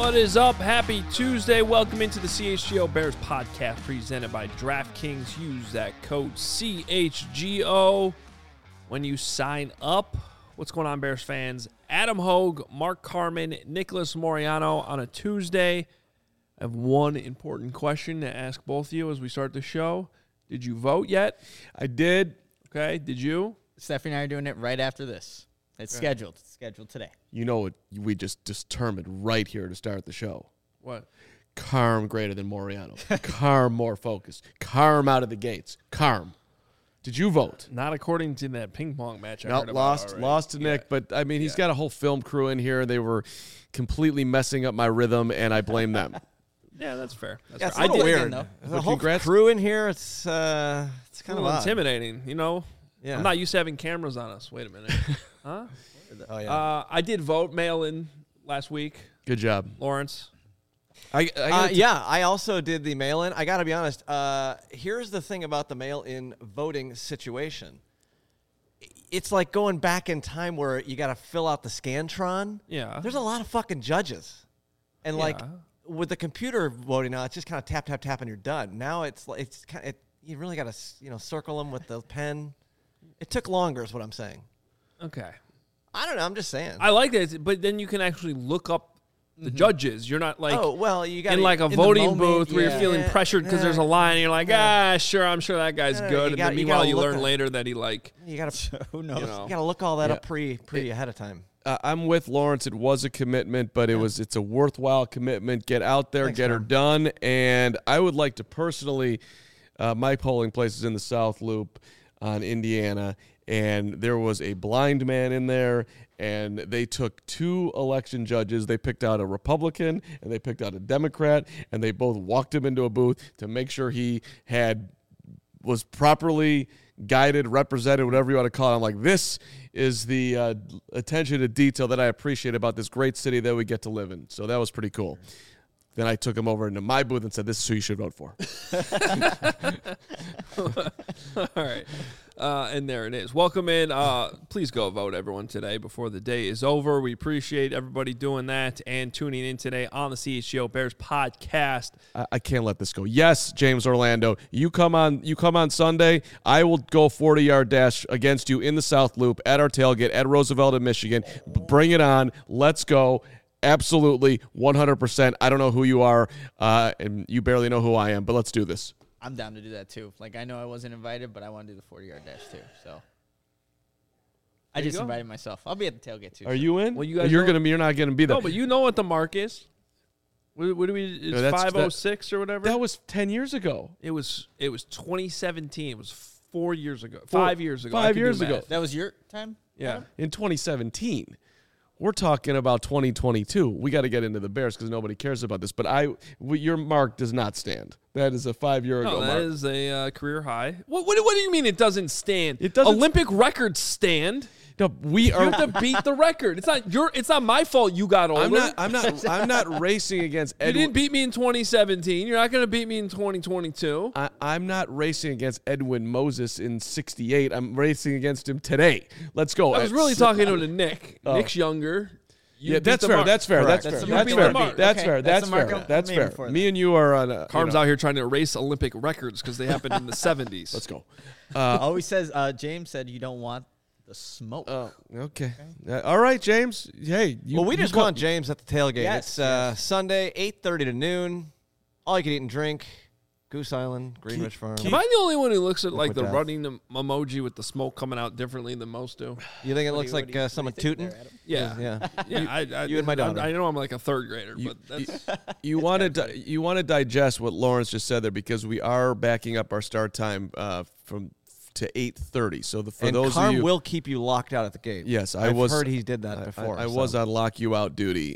What is up? Happy Tuesday. Welcome into the CHGO Bears podcast presented by DraftKings. Use that code CHGO when you sign up. What's going on, Bears fans? Adam Hogue, Mark Carman, Nicholas Moriano on a Tuesday. I have one important question to ask both of you as we start the show. Did you vote yet? I did. Okay, did you? Stephanie and I are doing it right after this. It's scheduled. It's scheduled today. You know what we just determined right here to start the show? What? Carm greater than Moriano. Carm more focused. Carm out of the gates. Carm. Did you vote? Not according to that ping pong match I No, heard about lost to Nick. But, I mean, he's got a whole film crew in here. They were completely messing up my rhythm, and I blame them. Yeah, that's fair. It's fair. a little weird, though. The whole Congrats. crew in here, it's kind A of little intimidating, you know? Yeah. I'm not used to having cameras on us. Wait a minute. Huh? Oh, yeah. I did vote mail-in last week, Good job. Lawrence. I also did the mail-in. I got to be honest. Here's the thing about the mail-in voting situation. It's like going back in time where you got to fill out the Scantron. Yeah. There's a lot of fucking judges. And, Yeah. like, with the computer voting now, it's just kind of tap, tap, tap, and you're done. Now it's kind of, you really got to, circle them with the pen. It took longer is what I'm saying. Okay. I don't know. I'm just saying. I like that, but then you can actually look up the judges. You're not like you got in like a the voting moment, booth where you're feeling pressured because there's a line and you're like, sure, I'm sure that guy's good. And then meanwhile you learn later that he You got to Who knows? you know. You got to look all that up pretty ahead of time. I'm with Lawrence. It was a commitment, but it's a worthwhile commitment. Get out there, get her done. And I would like to personally, my polling place is in the South Loop on Indiana, and there was a blind man in there, and they took two election judges. They picked out a Republican and they picked out a Democrat, and they both walked him into a booth to make sure he was properly guided, represented, whatever you want to call it. I'm like, this is the attention to detail that I appreciate about this great city that we get to live in. So that was pretty cool. Then I took him over into my booth and said, this is who you should vote for. All right. And there it is. Welcome in. Please go vote, everyone, today before the day is over. We appreciate everybody doing that and tuning in today on the CHGO Bears podcast. I can't let this go. Yes, James Orlando, you come on Sunday. I will go 40-yard dash against you in the South Loop at our tailgate at Roosevelt in Michigan. Bring it on. Let's go. Absolutely, 100%. I don't know who you are, and you barely know who I am, but let's do this. I'm down to do that, too. Like, I know I wasn't invited, but I want to do the 40-yard dash, too. So I just invited myself. I'll be at the tailgate, too. Are you in? Well, you guys you're not going to be there. No, but you know what the mark is. What do we? It's 506 or whatever. That was 10 years ago. It was 2017. It was 4 years ago. 5 years ago. 5 years ago. That was your time? Yeah. In 2017. We're talking about 2022. We got to get into the Bears because nobody cares about this. But your mark does not stand. That is a 5 year ago No, mark. that is a career high. What do you mean it doesn't stand? It doesn't. Olympic records stand. No, we You are. have to beat the record. It's not my fault you got older. I'm not racing against You Edwin. didn't beat me in 2017. You're not going to beat me in 2022. I'm not racing against Edwin Moses in '68. I'm racing against him today. Let's go. I was really talking to Nick. Nick's younger. You beat That's the fair. mark. That's fair. Correct. That's That's fair. the That's mark. fair. That's Okay. fair. That's That's the mark fair. I'm That's aiming fair. for Me and you are on. Carm's out here trying to erase Olympic records because they happened in the 70s. Let's go. Always says, James said you don't want the smoke. Okay. All right, James. Hey. We just want James at the tailgate. Yes, It's Sunday, 8:30 to noon. All you can eat and drink. Goose Island, Greenwich Farm. Am I the only one who looks at like with the that. running emoji with the smoke coming out differently than most do? You think it looks like someone tooting? Yeah. Yeah. Yeah, you and my daughter. I know I'm like a third grader, but that's You want to digest what Lawrence just said there because we are backing up our start time to 8:30. So for those Carm of you, will keep you locked out at the gate. yes, I've heard he did that before. I was on lock you out duty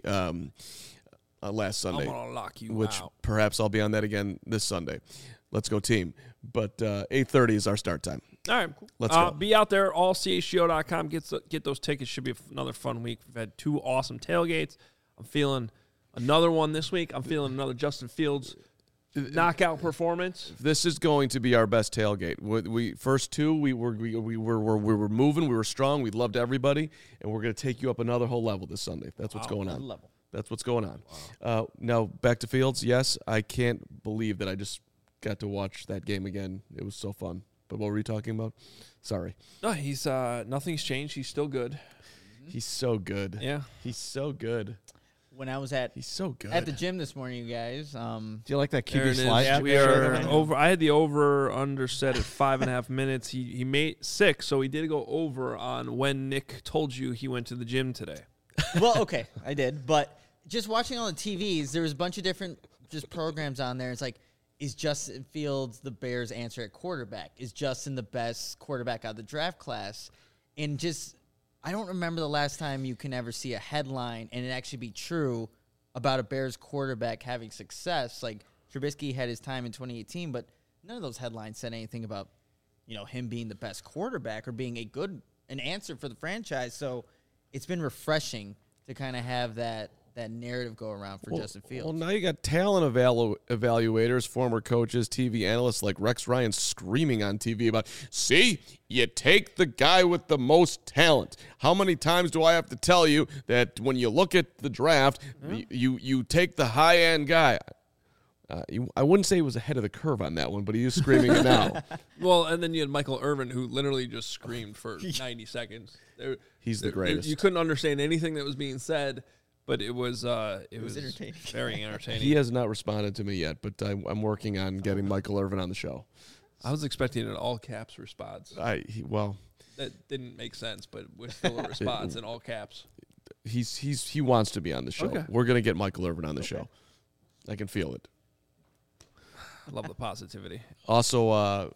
last Sunday, I'm gonna lock you which out. perhaps I'll be on that again this Sunday. Let's go team. But 8:30 is our start time. All right, Let's go. Be out there, allchgo.com. Get those tickets. Should be another fun week. We've had 2 awesome tailgates. I'm feeling another one this week. I'm feeling another Justin Fields knockout performance. This is going to be our best tailgate. We first 2, we were moving, we were strong, we loved everybody, and we're going to take you up another whole level this Sunday. That's what's going on. Level. That's what's going on. Wow. Now, back to Fields. Yes, I can't believe that I just got to watch that game again. It was so fun. But what were you talking about? Sorry. No, he's nothing's changed. He's still good. He's so good. Yeah. He's so good. When I was he's so good at the gym this morning, you guys. Do you like that QB slide? Yeah, we are over. I had the over/under set at 5.5 minutes. He made 6, so he did go over on when Nick told you he went to the gym today. Well, okay, I did, but just watching all the TVs, there was a bunch of different just programs on there. It's like, is Justin Fields the Bears' answer at quarterback? Is Justin the best quarterback out of the draft class? And just, I don't remember the last time you can ever see a headline and it actually be true about a Bears quarterback having success. Like, Trubisky had his time in 2018, but none of those headlines said anything about, him being the best quarterback or being an answer for the franchise. So it's been refreshing to kind of have that narrative go around for Justin Fields. Well, now you got talent evaluators, former coaches, TV analysts like Rex Ryan screaming on TV about, see, you take the guy with the most talent. How many times do I have to tell you that when you look at the draft, you take the high-end guy? I wouldn't say he was ahead of the curve on that one, but he is screaming it now. Well, and then you had Michael Irvin, who literally just screamed for 90 seconds. He's the greatest. You couldn't understand anything that was being said. But it was entertaining. Very entertaining. He has not responded to me yet, but I'm working on getting Michael Irvin on the show. I was expecting an all caps response. That didn't make sense, but was still a response in all caps. He wants to be on the show. Okay. We're gonna get Michael Irvin on the show. I can feel it. I love the positivity. Also,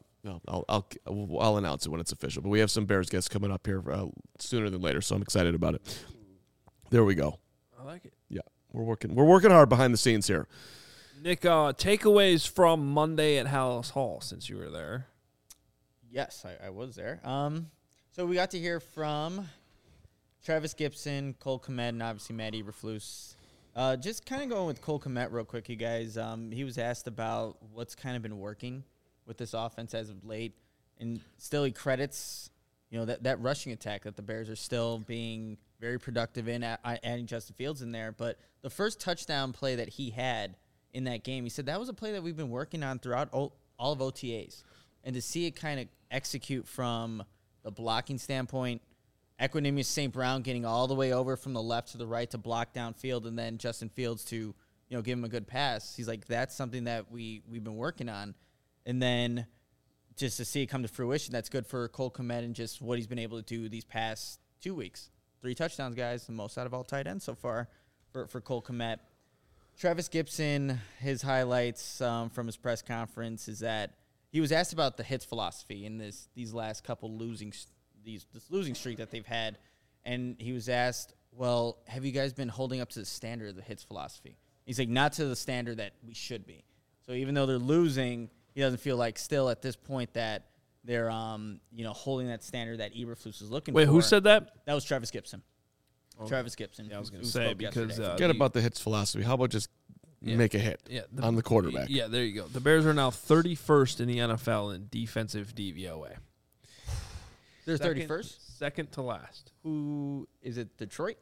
I'll announce it when it's official. But we have some Bears guests coming up here sooner than later, so I'm excited about it. There we go. I like it. Yeah, we're working hard behind the scenes here. Nick, takeaways from Monday at Hallis Hall since you were there. Yes, I was there. So we got to hear from Travis Gibson, Cole Kmet, and obviously Matt Eberflus. Just kind of going with Cole Kmet real quick, you guys. He was asked about what's kind of been working with this offense as of late, and still he credits that rushing attack that the Bears are still being very productive in, adding Justin Fields in there. But the first touchdown play that he had in that game, he said that was a play that we've been working on throughout all of OTAs. And to see it kind of execute from the blocking standpoint, Equanimeous St. Brown getting all the way over from the left to the right to block downfield, and then Justin Fields to give him a good pass. He's like, that's something that we've been working on. And then just to see it come to fruition, that's good for Cole Kmet and just what he's been able to do these past 2 weeks. 3 touchdowns, guys, the most out of all tight ends so far for Cole Kmet. Travis Gibson, his highlights from his press conference is that he was asked about the hits philosophy in these last couple this losing streak that they've had, and he was asked, well, have you guys been holding up to the standard of the hits philosophy? He's like, not to the standard that we should be. So even though they're losing, he doesn't feel like still at this point that they're holding that standard that Eberflus is looking for. Wait, who said that? That was Travis Gibson. Oh. Travis Gibson. Yeah, I was going to say, because forget about the hits philosophy. How about just make a hit on the quarterback? Yeah, there you go. The Bears are now 31st in the NFL in defensive DVOA. They're 31st? Second to last. Who is it? Detroit?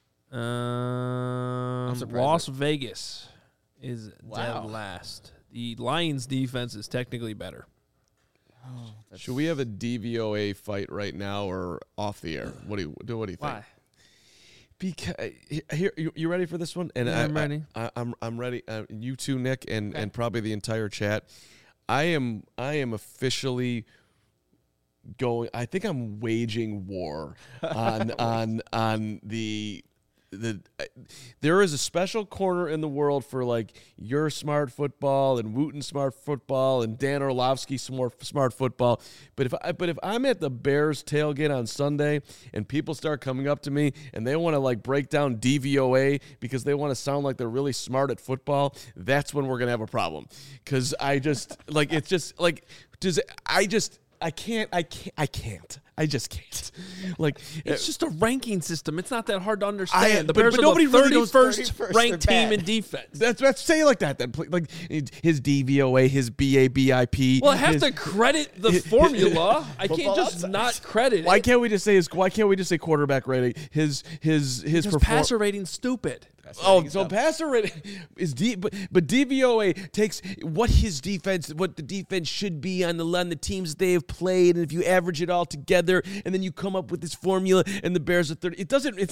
Las Vegas is dead last. The Lions' defense is technically better. Oh, should we have a DVOA fight right now or off the air? What do you think? Why? Because here, you ready for this one? And yeah, I'm ready. I'm ready. You too, Nick, and probably the entire chat. I am officially going. I think I'm waging war on the. There is a special corner in the world for like your smart football and Wooten smart football and Dan Orlovsky smart football. But if I'm at the Bears tailgate on Sunday and people start coming up to me and they want to like break down DVOA because they want to sound like they're really smart at football, that's when we're gonna have a problem. Because I just like it's just like I can't. I just can't. Like It's just a ranking system. It's not that hard to understand. The but Bears nobody are the really knows 31st ranked they're team bad. in defense. Let's say it like that. Then like his DVOA, his BABIP. Well, I have to credit the formula. I can't Football just Outsiders. not credit Why it. can't we just say quarterback rating? His Because passer rating's stupid. Oh, so passer rating is but DVOA takes what the defense should be on the teams they have played, and if you average it all together, and then you come up with this formula, and the Bears are 30.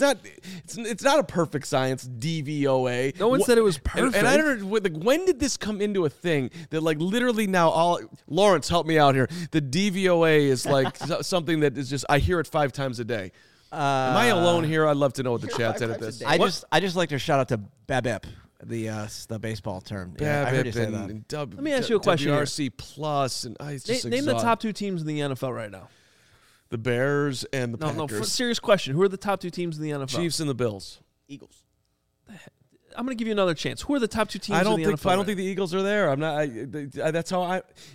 It's not a perfect science. DVOA. No one said it was perfect. And I don't know, like, when did this come into a thing that like literally now Lawrence, help me out here. The DVOA is like something that is just I hear it 5 times a day. Am I alone here? I'd love to know what the chat said at this. I just like to shout out to BABIP, the baseball term. Yeah, I heard you say that. Let me ask you a question here. WRC plus and it's just Name the exhausting. top 2 teams in the NFL right now. The Bears and the Packers. No, serious question. Who are the top 2 teams in the NFL? Chiefs and the Bills. Eagles. I'm going to give you another chance. Who are the top 2 teams in the NFL? I don't think the Eagles are there. I'm not. That's how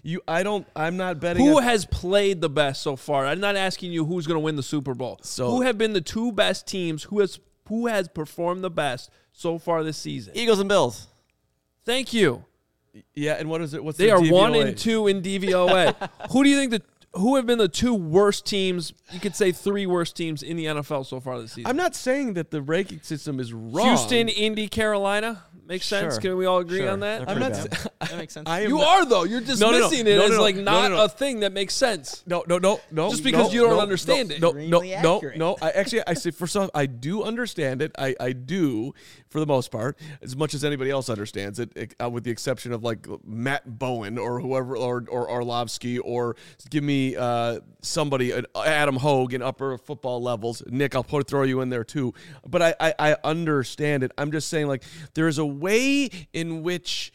I'm not betting. Who has played the best so far? I'm not asking you who's going to win the Super Bowl. So who have been the 2 best teams? Who has performed the best so far this season? Eagles and Bills. Thank you. Yeah, and what is it? What's They the are DVOA? 1 and 2 in DVOA. Who do you think who have been the 2 worst teams? You could say 3 worst teams in the NFL so far this season. I'm not saying that the ranking system is wrong. Houston, Indy, Carolina. Makes sense. Sure. Can we all agree Sure. on that? They're I'm not. pretty bad. That makes sense. I am You not- are though. You're dismissing it as like not no. a thing that makes sense. No. Just because you don't understand it. No. Extremely accurate. I say first off, I do understand it. I do for the most part, as much as anybody else understands it, with the exception of like Matt Bowen or whoever, or Orlovsky, or give me somebody, Adam Hogue in upper football levels. Nick, I'll throw you in there too. But I understand it. I'm just saying, like, there is a way in which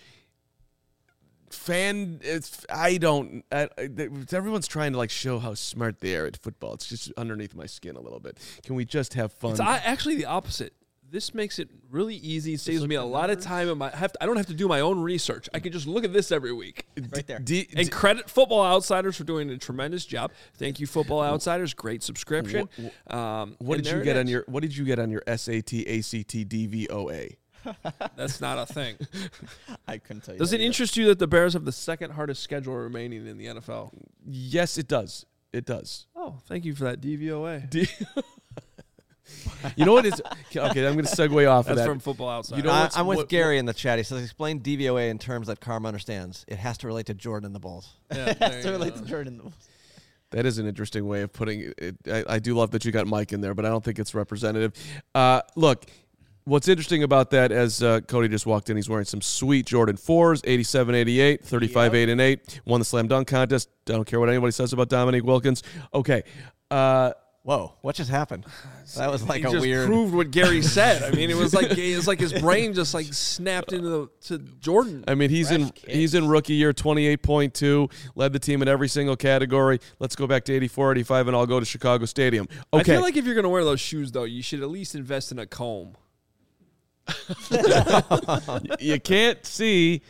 everyone's trying to like show how smart they are at football. It's just underneath my skin a little bit. Can we just have fun? It's actually the opposite. This makes it really easy. It saves me a lot of time. I don't have to do my own research. I can just look at this every week. Right there. And credit Football Outsiders for doing a tremendous job. Thank you, Football Outsiders. Great subscription. What did you get on your SAT, ACT, DVOA? That's not a thing. I couldn't tell you. Does that it interest you that the Bears have the 2nd hardest schedule remaining in the NFL? Yes, it does. It does. Oh, thank you for that DVOA. You know what is okay? I'm going to segue off of That's that. from Football Outsiders. You know what's- I'm with what- Gary in the chat. He says, explain DVOA in terms that Karma understands. It has to relate to Jordan and the Bulls. Yeah, That's to relate to Jordan. That is an interesting way of putting it. I do love that you got Mike in there, but I don't think it's representative. Look, what's interesting about that, as Cody just walked in, he's wearing some sweet Jordan 4s, 87-88, 35-8-8, won the slam dunk contest. I don't care what anybody says about Dominique Wilkins. Okay. Whoa, what just happened? That was like he a just weird. proved what Gary said. I mean, it was like his brain just like snapped into to Jordan. I mean, he's in rookie year, 28.2, led the team in every single category. Let's go back to 84, 85, and I'll go to Chicago Stadium. Okay. I feel like if you're going to wear those shoes, though, you should at least invest in a comb. You can't see.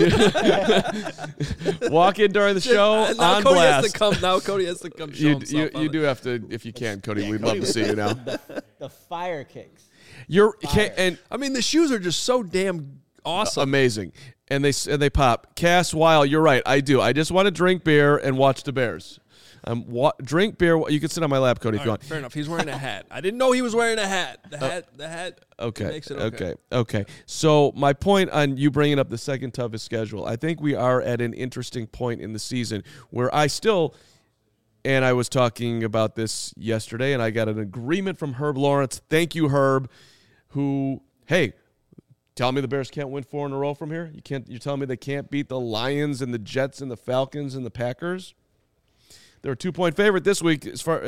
Walk in during the show now on Cody blast. Has to come. Now Cody has to come show himself. You do have to, if you can, Cody. We'd love to see you now. The fire kicks. And I mean, the shoes are just so damn awesome. amazing, and they pop. Cass Weil, you're right. I do. I just want to drink beer and watch the Bears. Drink beer. You can sit on my lap, Cody, if you want. Fair enough. He's wearing a hat. I didn't know he was wearing a hat. The hat. Okay. Makes it Okay. So my point on you bringing up the 2nd toughest schedule, I think we are at an interesting point in the season where and I was talking about this yesterday, and I got an agreement from Herb Lawrence. Thank you, Herb. Who, hey, tell me the Bears can't win 4 in a row from here? You're telling me they can't beat the Lions and the Jets and the Falcons and the Packers? They're a 2-point favorite this week. These are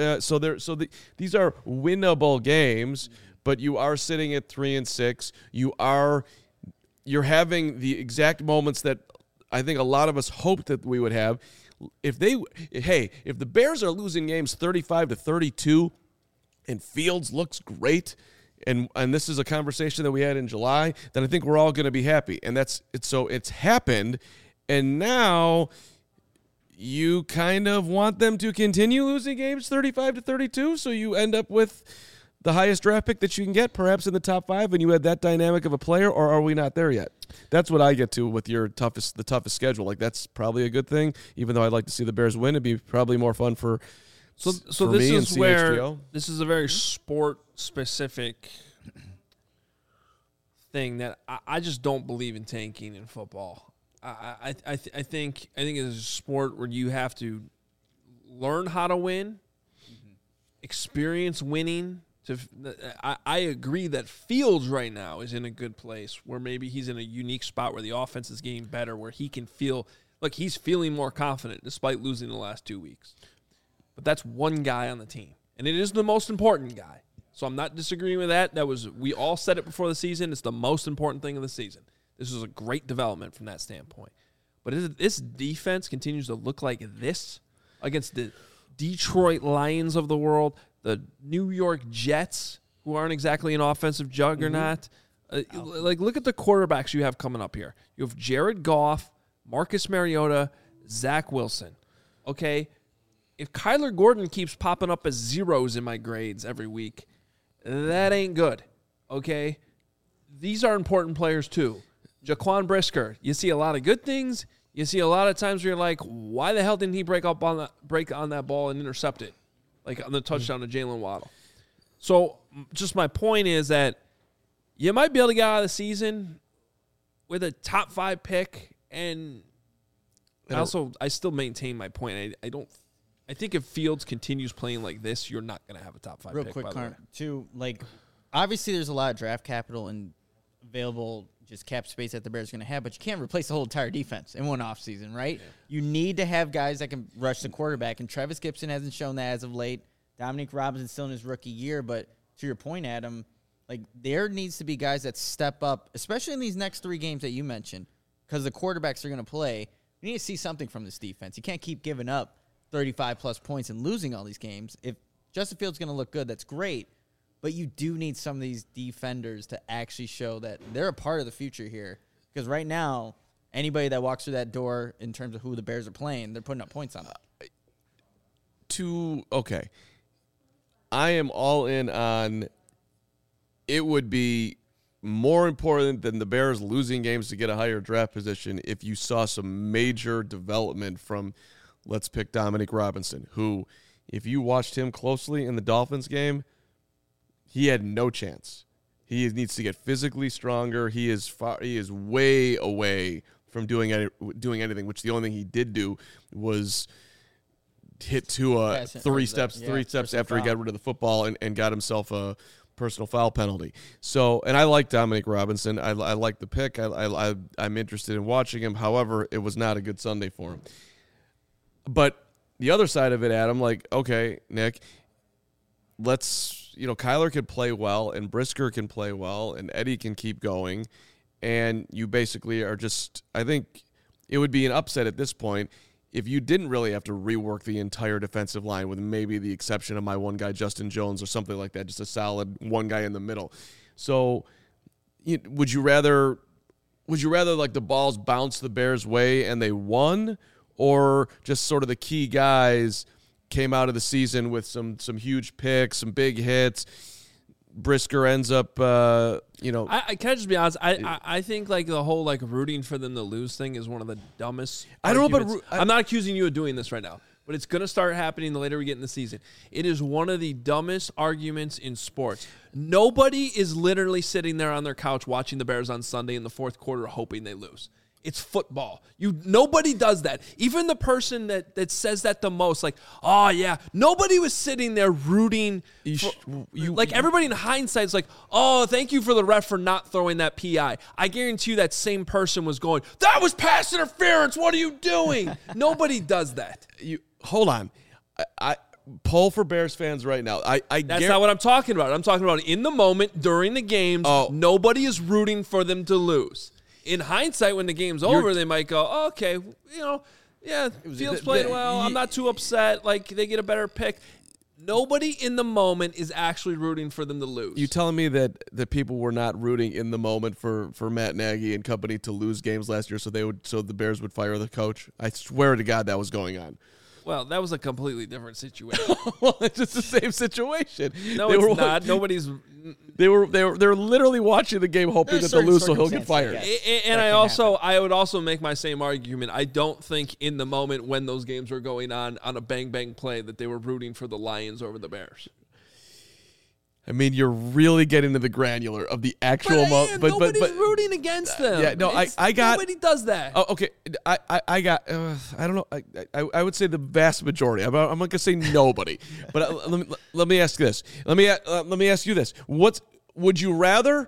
winnable games, but you are sitting at 3-6. You're having the exact moments that I think a lot of us hoped that we would have. If the Bears are losing games 35-32, and Fields looks great, and this is a conversation that we had in July, then I think we're all going to be happy. And it's happened, and now you kind of want them to continue losing games 35-32, so you end up with the highest draft pick that you can get, perhaps in the top 5, and you had that dynamic of a player, or are we not there yet? That's what I get to with the toughest schedule. Like, that's probably a good thing, even though I'd like to see the Bears win. It'd be probably more fun for So for this me is and where CHGO. this is a very sport-specific thing that I just don't believe in tanking in football. I think it's a sport where you have to learn how to win, experience winning. I agree that Fields right now is in a good place where maybe he's in a unique spot where the offense is getting better, where he can feel like he's feeling more confident despite losing the last 2 weeks. But that's one guy on the team, and it is the most important guy. So I'm not disagreeing with that. We all said it before the season. It's the most important thing of the season. This is a great development from that standpoint. But if this defense continues to look like this against the Detroit Lions of the world, the New York Jets, who aren't exactly an offensive juggernaut, look at the quarterbacks you have coming up here. You have Jared Goff, Marcus Mariota, Zach Wilson. Okay, if Kyler Gordon keeps popping up as zeros in my grades every week, that ain't good. Okay, these are important players too. Jaquan Brisker, you see a lot of good things. You see a lot of times where you're like, why the hell didn't he break on that ball and intercept it? Like on the touchdown to Jalen Waddle. So just my point is that you might be able to get out of the season with a top 5 pick, and I still maintain my point. I think if Fields continues playing like this, you're not going to have a top 5 Real pick. quick, By the way. too, like, obviously there's a lot of draft capital and available just cap space that the Bears are going to have, but you can't replace the whole entire defense in one offseason, right? Yeah. You need to have guys that can rush the quarterback, and Travis Gibson hasn't shown that as of late. Dominique Robinson's still in his rookie year, but to your point, Adam, like, there needs to be guys that step up, especially in these next 3 games that you mentioned, because the quarterbacks are going to play. You need to see something from this defense. You can't keep giving up 35-plus points and losing all these games. If Justin Fields is going to look good, that's great. But you do need some of these defenders to actually show that they're a part of the future here. Because right now, anybody that walks through that door in terms of who the Bears are playing, they're putting up points on it. Okay. I am all in on it would be more important than the Bears losing games to get a higher draft position if you saw some major development from, let's pick Dominique Robinson, who, if you watched him closely in the Dolphins game, he had no chance. He needs to get physically stronger. He is way away from doing anything, which the only thing he did do was hit Tua three steps after he got rid of the football and got himself a personal foul penalty. So, and I like Dominique Robinson. I like the pick. I'm interested in watching him. However, it was not a good Sunday for him. But the other side of it, Adam, like, okay, Nick, Kyler could play well, and Brisker can play well, and Eddie can keep going, and you basically are just, I think it would be an upset at this point if you didn't really have to rework the entire defensive line with maybe the exception of my one guy, Justin Jones, or something like that, just a solid one guy in the middle. So would you rather like the balls bounce the Bears' way and they won, or just sort of the key guys came out of the season with some huge picks, some big hits? Brisker ends up, I can I just be honest? I think like the whole like rooting for them to lose thing is one of the dumbest. I don't know, but I'm not accusing you of doing this right now, but it's gonna start happening the later we get in the season. It is one of the dumbest arguments in sports. Nobody is literally sitting there on their couch watching the Bears on Sunday in the fourth quarter hoping they lose. It's football. Nobody does that. Even the person that says that the most, like, oh yeah, nobody was sitting there rooting. Everybody in hindsight is like, oh, thank you for the ref for not throwing that PI. I guarantee you that same person was going, that was pass interference. What are you doing? Nobody does that. Hold on. I poll for Bears fans right now. That's not what I'm talking about. I'm talking about in the moment during the games. Nobody is rooting for them to lose. In hindsight, when the game's over, they might go, oh, okay, Fields played well. I'm not too upset. Like, they get a better pick. Nobody in the moment is actually rooting for them to lose. You telling me that people were not rooting in the moment for Matt Nagy and company to lose games last year, so the Bears would fire the coach? I swear to God that was going on. Well, that was a completely different situation. Well, it's just the same situation. No, it's not. Nobody's. They were literally watching the game, hoping that they'll lose, so he'll get fired. And I would also make my same argument. I don't think in the moment when those games were going on a bang bang play that they were rooting for the Lions over the Bears. I mean, you're really getting to the granular of the actual but nobody's rooting against them. Yeah, no, I got nobody does that. Oh, okay, I got. I don't know. I would say the vast majority. I'm not gonna say nobody, but let me ask this. Let me ask you this. Would you rather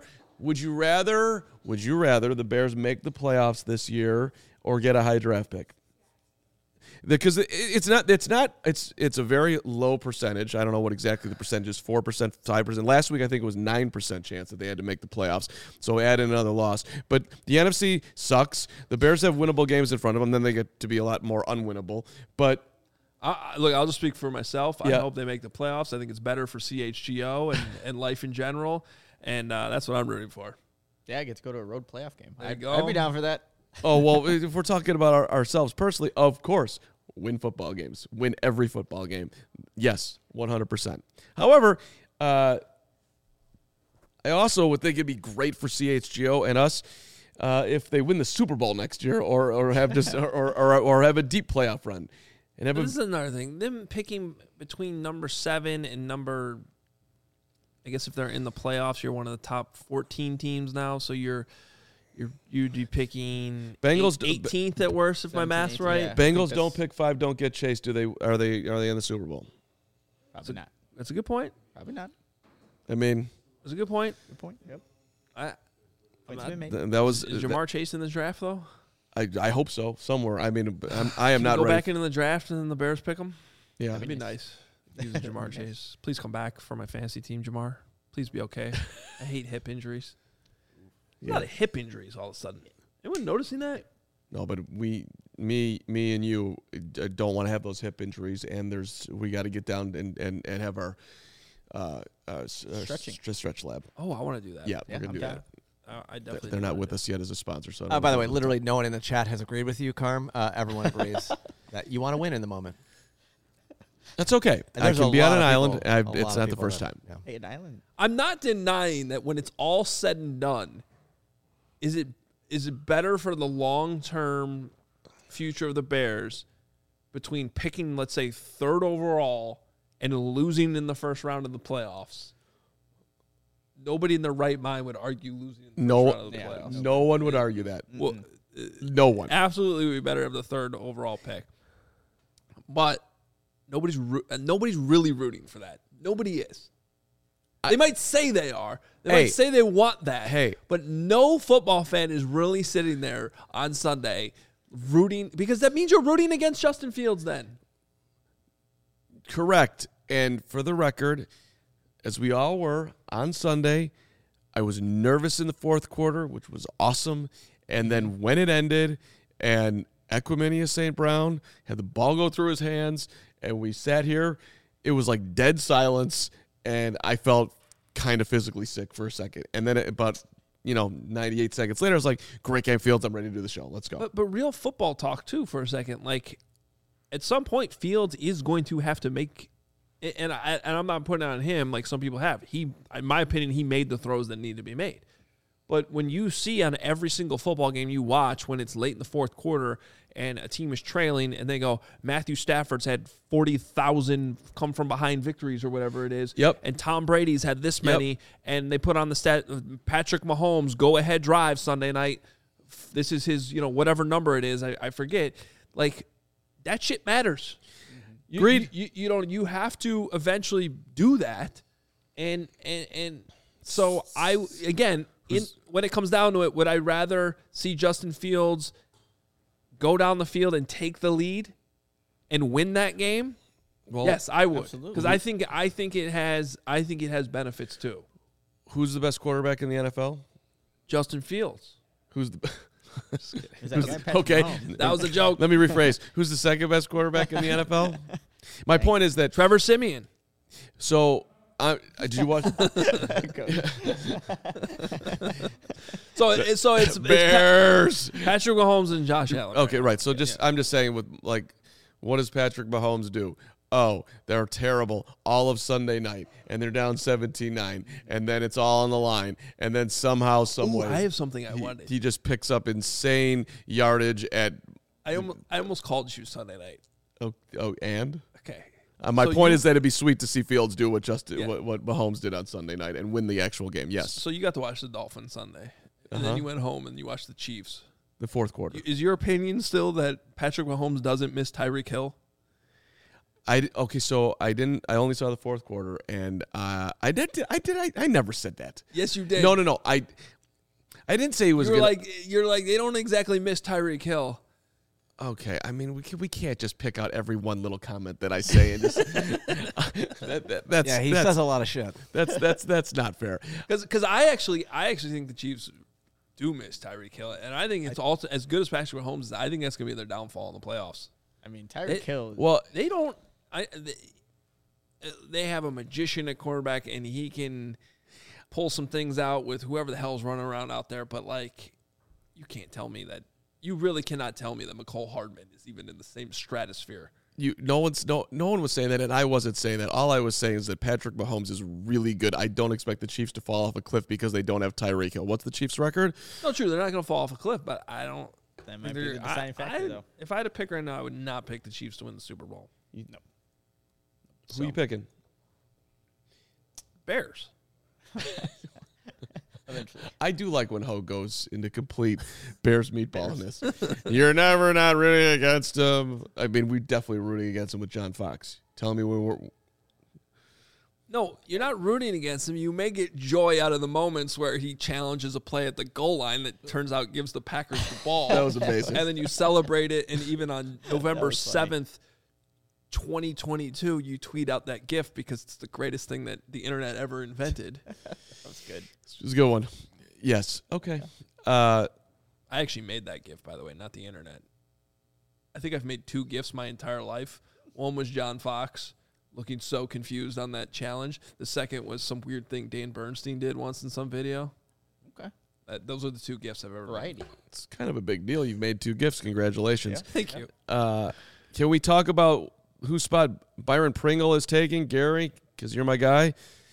the Bears make the playoffs this year or get a high draft pick? Because it's a very low percentage. I don't know what exactly the percentage is, 4%, 5%. Last week I think it was 9% chance that they had to make the playoffs. So add in another loss. But the NFC sucks. The Bears have winnable games in front of them. Then they get to be a lot more unwinnable. But look, I'll just speak for myself. Yeah. I hope they make the playoffs. I think it's better for CHGO and life in general. And that's what I'm rooting for. Yeah, I get to go to a road playoff game. There you go. I'd be down for that. Oh, well, if we're talking about ourselves personally, of course, win football games. Win every football game. Yes, 100%. However, I also would think it'd be great for CHGO and us if they win the Super Bowl next year or have just or have a deep playoff run. And have this is another thing. Them picking between number 7 and number, I guess if they're in the playoffs, you're one of the top 14 teams now, so you'd be picking Bengals 18th at worst, if my math's right. Yeah. Bengals don't pick 5, don't get chased. Are they in the Super Bowl? Probably not. That's a good point. Probably not. I mean, That's a good point. Good point. Yep. I'm Points not- been made. that was Is Jamar Chase in this draft though? I hope so somewhere. I mean, I am not go ready. back into the draft and then the Bears pick him. Yeah, That'd be nice. Using Jamar Chase. Please come back for my fantasy team, Jamar. Please be okay. I hate hip injuries. A lot of hip injuries all of a sudden. Anyone noticing that? No, but me and you don't want to have those hip injuries, and we got to get down and have our stretch lab. Oh, I want to do that. Yeah, we're gonna do that. I definitely. They're do not wanna with do us yet as a sponsor. So By the way, literally no one in the chat has agreed with you, Carm. Everyone agrees that you want to win in the moment. that's okay. And I there's can a be on lot an of island. people- a lot It's of not the people first that- time. yeah. Hey, an island. I'm not denying that when it's all said and done, is it better for the long-term future of the Bears between picking, let's say, 3rd overall and losing in the first round of the playoffs? Nobody in their right mind would argue losing in the first round of the playoffs. No one would argue that. Well, No one. absolutely would be better have the 3rd overall pick. But nobody's really rooting for that. Nobody is. They might say they are. They Hey. might say they want that. Hey. But no football fan is really sitting there on Sunday rooting, because that means you're rooting against Justin Fields then. Correct. And for the record, as we all were on Sunday, I was nervous in the fourth quarter, which was awesome. And then when it ended and Equimania St. Brown had the ball go through his hands and we sat here, it was like dead silence. And I felt kind of physically sick for a second. And then about 98 seconds later, I was like, great game, Fields. I'm ready to do the show. Let's go. But real football talk, too, for a second. Like, at some point, Fields is going to have to make – and I'm not putting it on him like some people have. In my opinion, he made the throws that need to be made. But when you see on every single football game you watch when it's late in the fourth quarter and a team is trailing and they go, Matthew Stafford's had 40,000 come from behind victories or whatever it is. Yep. And Tom Brady's had this many, and they put on the stat, Patrick Mahomes, go-ahead drive Sunday night. This is his, whatever number it is, I forget. Like, that shit matters. Agreed. You have to eventually do that. And so when it comes down to it, would I rather see Justin Fields go down the field and take the lead and win that game? Well, Yes, I would. absolutely. Because I think it has benefits too. Who's the best quarterback in the NFL? Justin Fields. Who's the Is that guy Patrick okay? Mahomes? That was a joke. Let me rephrase. Who's the second best quarterback in the NFL? My point is that Trevor Siemian. So, did you watch? So it's Bears. Patrick Mahomes and Josh Allen. Okay, right. So I'm just saying, with like, what does Patrick Mahomes do? Oh, they're terrible all of Sunday night, and they're down 17-9, and then it's all on the line, and then somehow, some way, I have something I wanted. He just picks up insane yardage at. I almost called you Sunday night. And Okay. my point is that it'd be sweet to see Fields do what Mahomes did on Sunday night and win the actual game. Yes. So you got to watch the Dolphins Sunday, and then you went home and you watched the Chiefs. The fourth quarter. Is your opinion still that Patrick Mahomes doesn't miss Tyreek Hill? So I only saw the fourth quarter, and I never said that. Yes, you did. No. I didn't say he was. You're like they don't exactly miss Tyreek Hill. Okay, I mean we can't just pick out every one little comment that I say and just. He says a lot of shit. That's not fair. Because I actually think the Chiefs do miss Tyreek Hill, and I think it's also as good as Patrick Mahomes is. I think that's gonna be their downfall in the playoffs. I mean, Tyreek Hill. Well, they don't. They have a magician at quarterback, and he can pull some things out with whoever the hell's running around out there. But like, you can't tell me that. You really cannot tell me that McCole Hardman is even in the same stratosphere. No one was saying that, and I wasn't saying that. All I was saying is that Patrick Mahomes is really good. I don't expect the Chiefs to fall off a cliff because they don't have Tyreek Hill. What's the Chiefs' record? No, true. They're not going to fall off a cliff, but I don't. That might be the deciding factor, though. If I had to pick right now, I would not pick the Chiefs to win the Super Bowl. No. Who are you picking? Bears. Eventually. I do like when Ho goes into complete Bears meatballness. You're never not rooting against him. I mean, we're definitely rooting against him with John Fox. Tell me when we're. No, you're not rooting against him. You may get joy out of the moments where he challenges a play at the goal line that turns out gives the Packers the ball. That was amazing. And then you celebrate it, and even on November 7th, 2022, you tweet out that GIF because it's the greatest thing that the internet ever invented. That was good. It was a good one. Yes. Okay. I actually made that GIF, by the way, not the internet. I think I've made 2 GIFs my entire life. One was John Fox looking so confused on that challenge. The second was some weird thing Dan Bernstein did once in some video. Okay. Those are the 2 GIFs I've ever made. It's kind of a big deal. You've made 2 GIFs. Congratulations. Yeah. Thank you. Can we talk about whose spot Byron Pringle is taking? Gary, because you're my guy.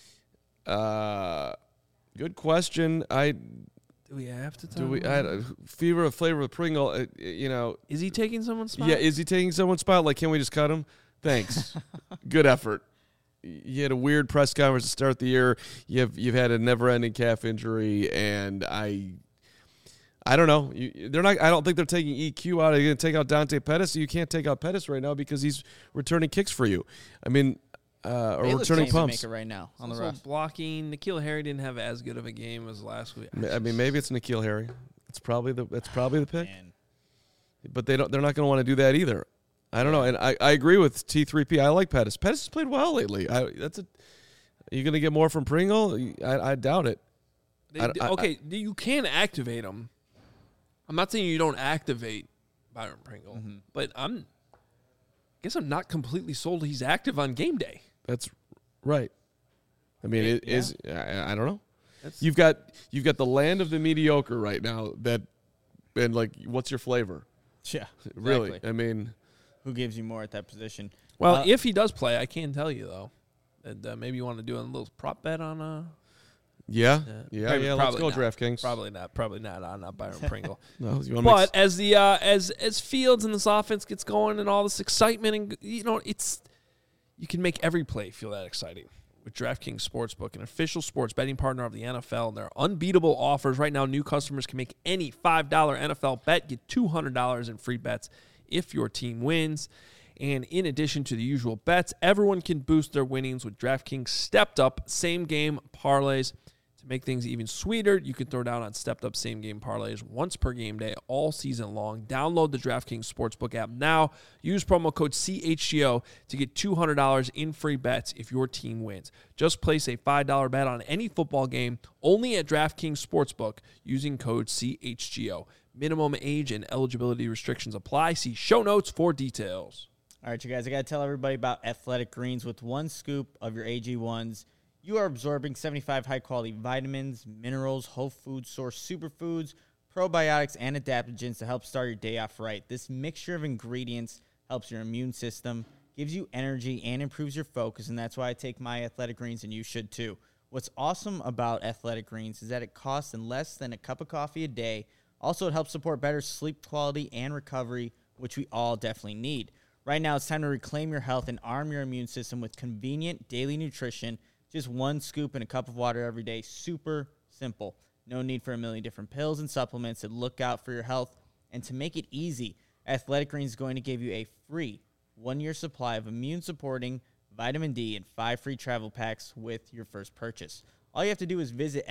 Good question. Do we have to talk flavor of Pringle, Is he taking someone's spot? Yeah, is he taking someone's spot? Like, can we just cut him? Thanks. Good effort. You had a weird press conference to start the year. You've had a never-ending calf injury, and I don't know. They're not. I don't think they're taking EQ out. Are you going to take out Dante Pettis? You can't take out Pettis right now because he's returning kicks for you. I mean, or returning pumps. Right now on the also rest. Blocking. N'Keal Harry didn't have as good of a game as last week. I mean, maybe it's N'Keal Harry. That's probably the pick. Man. But they're not going to want to do that either. I don't know, and I agree with T3P. I like Pettis. Pettis has played well lately. Are you going to get more from Pringle? I doubt it. You can activate him. I'm not saying you don't activate Byron Pringle, but I guess I'm not completely sold he's active on game day. That's right. I mean, I don't know. You've got the land of the mediocre right now. And like, what's your flavor? Yeah, exactly. Really. I mean, who gives you more at that position? Well, if he does play, I can tell you though that maybe you want to do a little prop bet on Yeah. Let's go, DraftKings. Probably not on Byron Pringle. No, but as the as Fields and this offense gets going and all this excitement, and you can make every play feel that exciting with DraftKings Sportsbook, an official sports betting partner of the NFL. And their unbeatable offers right now. New customers can make any $5 NFL bet, get $200 in free bets if your team wins. And in addition to the usual bets, everyone can boost their winnings with DraftKings stepped-up same-game parlays. To make things even sweeter, you can throw down on stepped-up same-game parlays once per game day all season long. Download the DraftKings Sportsbook app now. Use promo code CHGO to get $200 in free bets if your team wins. Just place a $5 bet on any football game only at DraftKings Sportsbook using code CHGO. Minimum age and eligibility restrictions apply. See show notes for details. All right, you guys, I got to tell everybody about Athletic Greens. With 1 scoop of your AG1s, you are absorbing 75 high-quality vitamins, minerals, whole food source superfoods, probiotics, and adaptogens to help start your day off right. This mixture of ingredients helps your immune system, gives you energy, and improves your focus, and that's why I take my Athletic Greens, and you should too. What's awesome about Athletic Greens is that it costs less than a cup of coffee a day. Also, it helps support better sleep quality and recovery, which we all definitely need. Right now, it's time to reclaim your health and arm your immune system with convenient daily nutrition. Just 1 scoop in a cup of water every day. Super simple. No need for a million different pills and supplements to look out for your health. And to make it easy, Athletic Greens is going to give you a free 1-year supply of immune-supporting vitamin D and 5 free travel packs with your first purchase. All you have to do is visit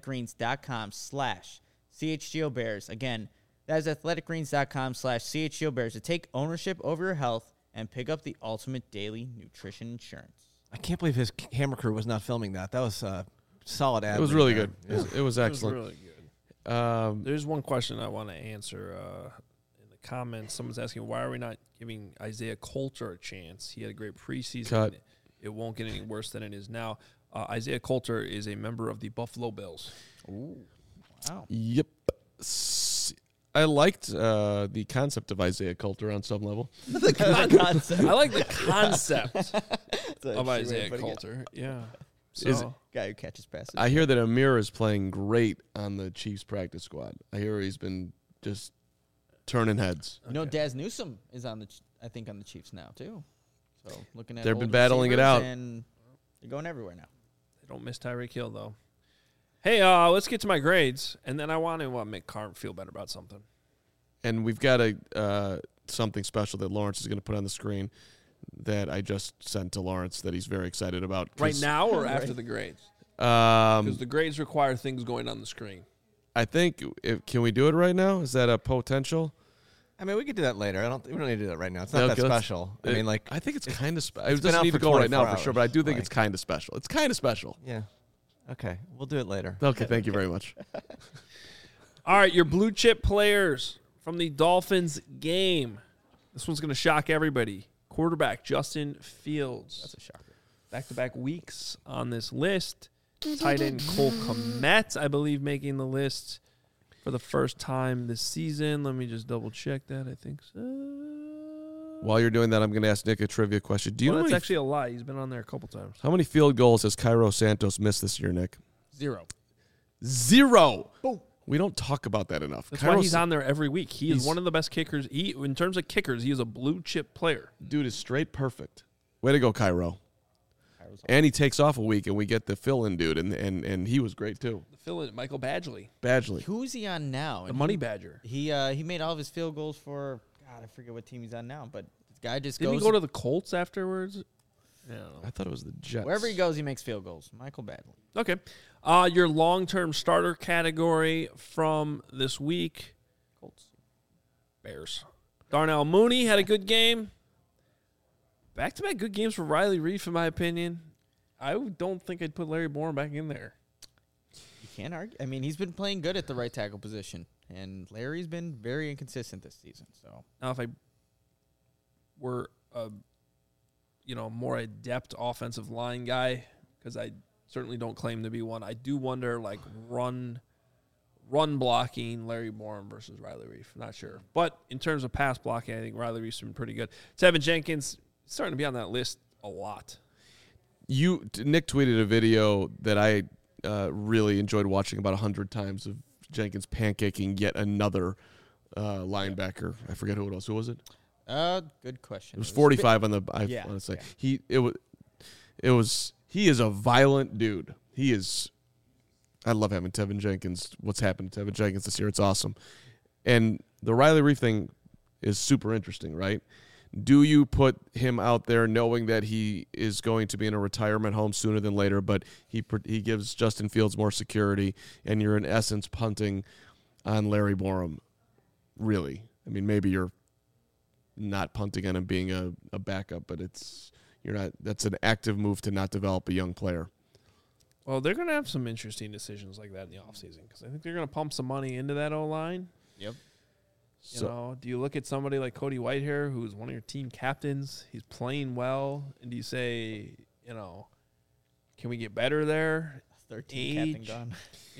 athleticgreens.com/CHGOBears. Again, that is athleticgreens.com/CHGOBears to take ownership over your health and pick up the ultimate daily nutrition insurance. I can't believe his camera crew was not filming that. That was a solid ad. It was really good. It was excellent. It was really good. There's one question I want to answer in the comments. Someone's asking, why are we not giving Isaiah Coulter a chance? He had a great preseason. Cut. It won't get any worse than it is now. Isaiah Coulter is a member of the Buffalo Bills. Ooh, wow. Yep. I liked the concept of Isaiah Coulter on some level. Concept. I like the concept of Isaiah Coulter. Yeah. So, Guy who catches passes. I hear that Amir is playing great on the Chiefs practice squad. I hear he's been just turning heads. You know, Daz Newsome is on the Chiefs now too. So looking at They've been old battling it receivers, out. and they're going everywhere now. they don't miss Tyreek Hill, though. Hey, let's get to my grades, and then I want to make Carm feel better about something. And we've got something special that Lawrence is going to put on the screen that I just sent to Lawrence that he's very excited about. Right now or after the grades? Because the grades require things going on the screen. I think, can we do it right now? Is that a potential? I mean, we could do that later. We don't need to do that right now. It's not that special. I mean, like, I think it's kind of special. It been doesn't out need for to go right now 24 for sure, but I do think hours. it's kind of special. It's kind of special. yeah. Okay, we'll do it later. Okay, thank you very much. All right, your blue chip players from the Dolphins game. This one's going to shock everybody. Quarterback Justin Fields. That's a shocker. Back-to-back weeks on this list. Tight end Cole Kmet, I believe, making the list for the first time this season. Let me just double-check that. I think so. While you're doing that, I'm going to ask Nick a trivia question. Do you know that's how actually a lie. He's been on there a couple times. many field goals has Cairo Santos missed this year, Nick? 0. 0. Boom. We don't talk about that enough. That's why he's on there every week. He is one of the best kickers. In terms of kickers, he is a blue-chip player. Dude is straight perfect. Way to go, Cairo. And he takes off a week, and we get the fill-in dude, and he was great, too. The fill-in, Michael Badgley. Who's he on now? The Money Badger. He made all of his field goals for, God, I forget what team he's on now, but this guy just Didn't goes. he go to the Colts afterwards? Yeah. I thought it was the Jets. Wherever he goes, he makes field goals. Michael Badgley. Okay. Your long-term starter category from this week. Colts. Bears. Darnell Mooney had a good game. Back-to-back good games for Riley Reif, in my opinion. I don't think I'd put Larry Bourne back in there. You can't argue. I mean, he's been playing good at the right tackle position, and Larry's been very inconsistent this season. So Now, if I were a more adept offensive line guy, because I certainly don't claim to be one, I do wonder, like, run blocking Larry Bourne versus Riley Reif. Not sure. But in terms of pass blocking, I think Riley Reif's been pretty good. Tevin Jenkins starting to be on that list a lot. Nick tweeted a video that I really enjoyed watching about 100 times of Jenkins pancaking yet another linebacker. I forget who it was. Who was it? Good question. It was 45 on the. I Yeah, want to say yeah. He is a violent dude. He is. I love having Tevin Jenkins. What's happened to Tevin Jenkins this year? It's awesome. And the Riley Reif thing is super interesting, right? Do you put him out there knowing that he is going to be in a retirement home sooner than later, but he gives Justin Fields more security, and you're in essence punting on Larry Borum? Really? I mean, maybe you're not punting on him being a backup, but you're not. That's an active move to not develop a young player. Well, they're going to have some interesting decisions like that in the offseason because I think they're going to pump some money into that O-line. Yep. Do you look at somebody like Cody Whitehair, who's one of your team captains? He's playing well, and do you say, can we get better there? 13 captain gone.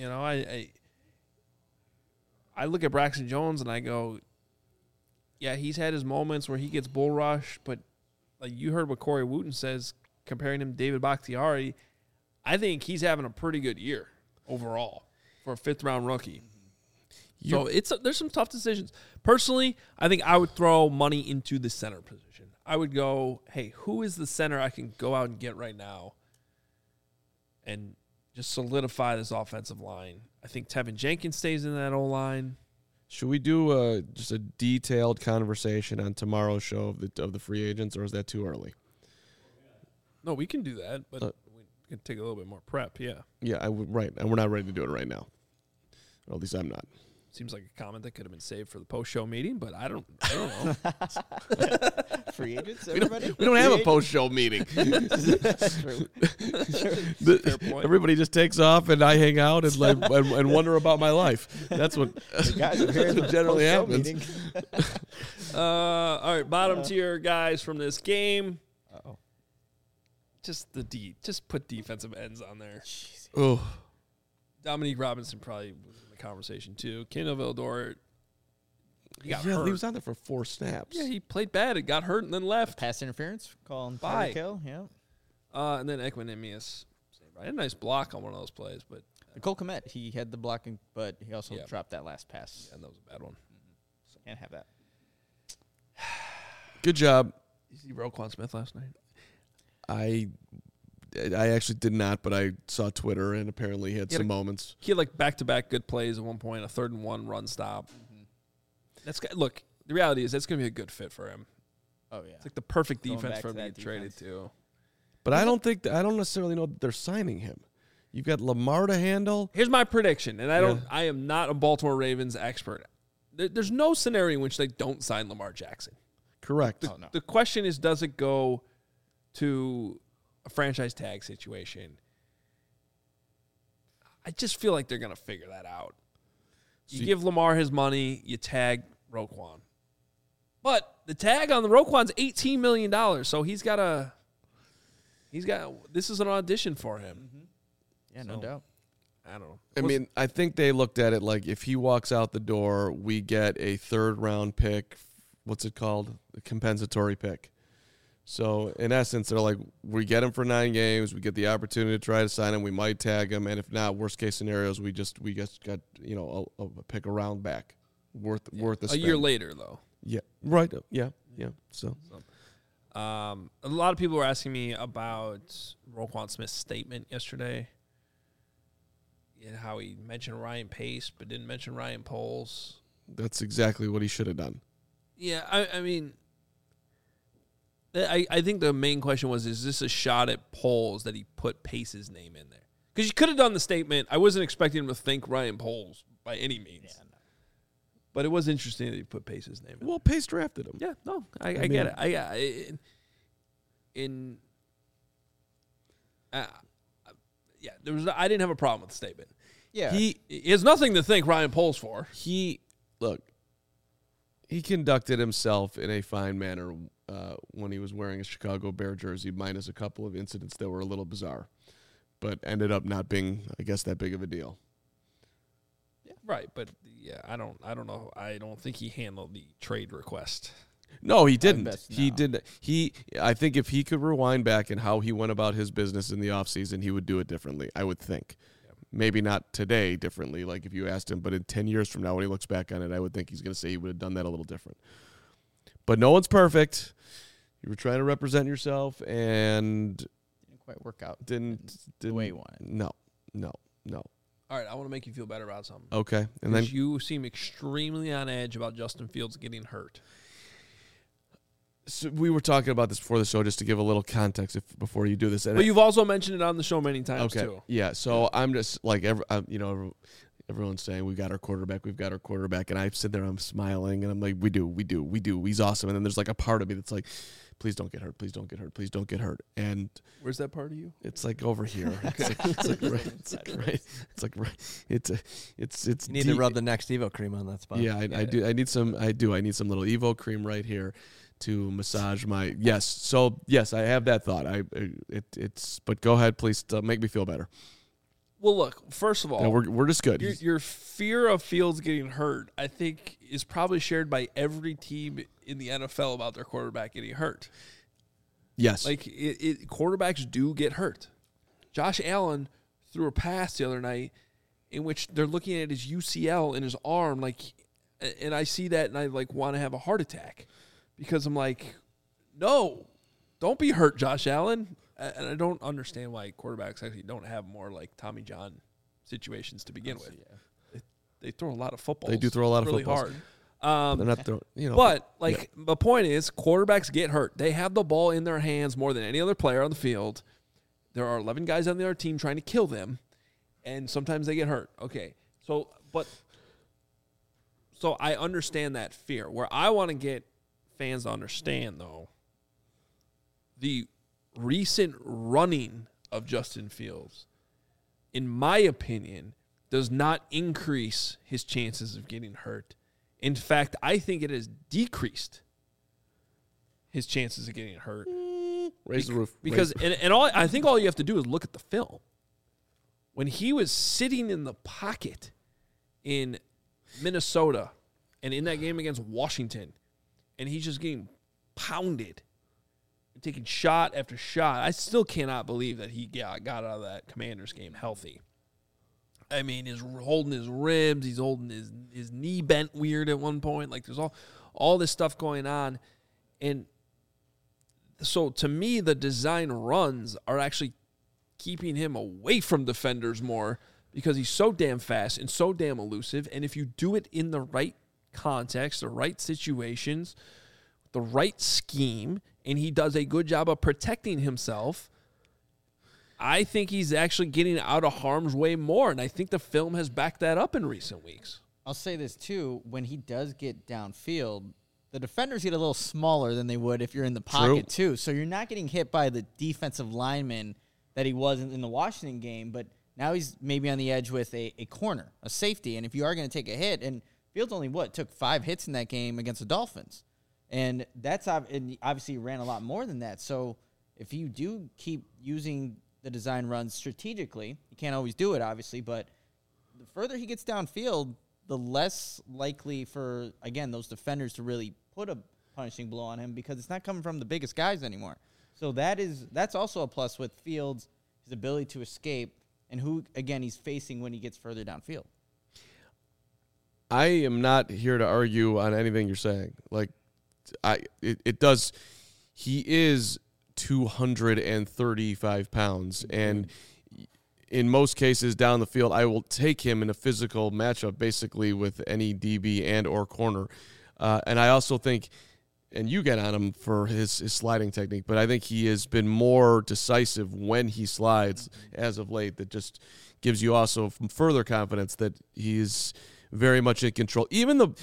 I look at Braxton Jones and I go, yeah, he's had his moments where he gets bull rushed, but like you heard what Corey Wooten says, comparing him to David Bakhtiari, I think he's having a pretty good year overall for a 5th-round rookie. So there's some tough decisions. Personally, I think I would throw money into the center position. I would go, hey, who is the center I can go out and get right now and just solidify this offensive line? I think Tevin Jenkins stays in that O-line. Should we do just a detailed conversation on tomorrow's show of the free agents, or is that too early? No, we can do that, but we can take a little bit more prep, yeah. Yeah, right, and we're not ready to do it right now. Or at least I'm not. Seems like a comment that could have been saved for the post-show meeting, but I don't know. Free agents, everybody? We don't have a post-show meeting. That's true. Fair point. Everybody just takes off, and I hang out and wonder about my life. That's what generally happens. All right, bottom tier guys from this game. Uh-oh. Just put defensive ends on there. Oh, Dominique Robinson probably was in the conversation too. Kendall Vildor, he got hurt. He was out there for 4 snaps. Yeah, he played bad. It got hurt and then left. Pass interference, calling Bye. kill. Yeah. And then Equinemius, I had a nice block on one of those plays, but Cole Kmet, he had the blocking, but he also dropped that last pass. Yeah, that was a bad one. So can't have that. Good job. Did you see Roquan Smith last night? I actually did not, but I saw Twitter, and apparently he had some moments. He had like back-to-back good plays at one point, a 3rd-and-1 run stop. Look, the reality is that's going to be a good fit for him. Oh, yeah. It's like the perfect Going defense back for him to to that get traded defense. to. But I don't necessarily know that they're signing him. You've got Lamar to handle. Here's my prediction, and I am not a Baltimore Ravens expert. There's no scenario in which they don't sign Lamar Jackson. Correct. Oh, no. The question is, does it go to a franchise tag situation? I just feel like they're going to figure that out. You give Lamar his money, you tag Roquan. But the tag on the Roquan's $18 million, so this is an audition for him. Yeah, no doubt. I don't know. I mean, I think they looked at it like if he walks out the door, we get a 3rd-round pick. What's it called? A compensatory pick. So, in essence, they're like, we get him for 9 games. We get the opportunity to try to sign him. We might tag him. And if not, worst-case scenarios, we just got, a pick a round back worth a spend. A year later, though. Yeah, right. Yeah. So, a lot of people were asking me about Roquan Smith's statement yesterday. And how he mentioned Ryan Pace but didn't mention Ryan Poles. that's exactly what he should have done. Yeah, I mean, I think the main question was, is this a shot at Poles that he put Pace's name in there? Because you could have done the statement. I wasn't expecting him to think Ryan Poles by any means. Yeah, no. But it was interesting that he put Pace's name in. Well, Pace drafted him. Yeah, no, I get it. I didn't have a problem with the statement. Yeah. He has nothing to thank Ryan Poles for. He conducted himself in a fine manner when he was wearing a Chicago Bear jersey, minus a couple of incidents that were a little bizarre, but ended up not being, I guess, that big of a deal. Yeah, right. But yeah, I don't know. I don't think he handled the trade request. No, he didn't. He did. I think if he could rewind back and how he went about his business in the offseason, he would do it differently, I would think. Maybe not today differently, like if you asked him, but in 10 years from now when he looks back on it, I would think he's going to say he would have done that a little different. But no one's perfect. You were trying to represent yourself and didn't quite work out. Didn't the way you wanted. No. All right, I want to make you feel better about something. Okay. And then you seem extremely on edge about Justin Fields getting hurt. So we were talking about this before the show, just to give a little context before you do this. But you've also mentioned it on the show many times too. Yeah. So I'm just like Everyone's saying we've got our quarterback, and I sit there, I'm smiling, and I'm like, we do. He's awesome. And then there's like a part of me that's like, please don't get hurt, please don't get hurt. And where's that part of you? it's like over here. It's You need to rub the next Evo cream on that spot. Yeah, I do. I need some little Evo cream right here to massage my. Yes. So yes, I have that thought. But go ahead, please make me feel better. Well, look, first of all, no, we're just good. Your fear of Fields getting hurt, I think, is probably shared by every team in the NFL about their quarterback getting hurt. Yes. Like, quarterbacks do get hurt. Josh Allen threw a pass the other night in which they're looking at his UCL in his arm, and I see that and I want to have a heart attack because I'm like, no, don't be hurt, Josh Allen. And I don't understand why quarterbacks actually don't have more like Tommy John situations to begin with. Yeah. They throw a lot of footballs. They do throw a lot of really footballs. Hard. They're not throwing, But the point is, quarterbacks get hurt. They have the ball in their hands more than any other player on the field. There are 11 guys on the other team trying to kill them, and sometimes they get hurt. Okay, so I understand that fear. Where I want to get fans to understand, though, the recent running of Justin Fields, in my opinion, does not increase his chances of getting hurt. In fact, I think it has decreased his chances of getting hurt. Raise the roof. Because I think all you have to do is look at the film. When he was sitting in the pocket in Minnesota and in that game against Washington, and he's just getting pounded, taking shot after shot. I still cannot believe that he got out of that Commanders game healthy. I mean, he's holding his ribs. He's holding his knee bent weird at one point. Like, there's all this stuff going on. And so, to me, the design runs are actually keeping him away from defenders more because he's so damn fast and so damn elusive. And if you do it in the right context, the right situations, the right scheme, and he does a good job of protecting himself, I think he's actually getting out of harm's way more, and I think the film has backed that up in recent weeks. I'll say this, too. When he does get downfield, the defenders get a little smaller than they would if you're in the pocket, too. So you're not getting hit by the defensive lineman that he was in the Washington game, but now he's maybe on the edge with a corner, a safety, and if you are going to take a hit, and Fields only, took 5 hits in that game against the Dolphins. And obviously ran a lot more than that. So if you do keep using the design runs strategically, you can't always do it, obviously, but the further he gets downfield, the less likely for, again, those defenders to really put a punishing blow on him because it's not coming from the biggest guys anymore. So that's also a plus with Fields, his ability to escape, and who, again, he's facing when he gets further downfield. I am not here to argue on anything you're saying. He is 235 pounds, and in most cases down the field, I will take him in a physical matchup basically with any DB and or corner. And I also think, and you get on him for his sliding technique, but I think he has been more decisive when he slides as of late. That just gives you also further confidence that he's very much in control. Even the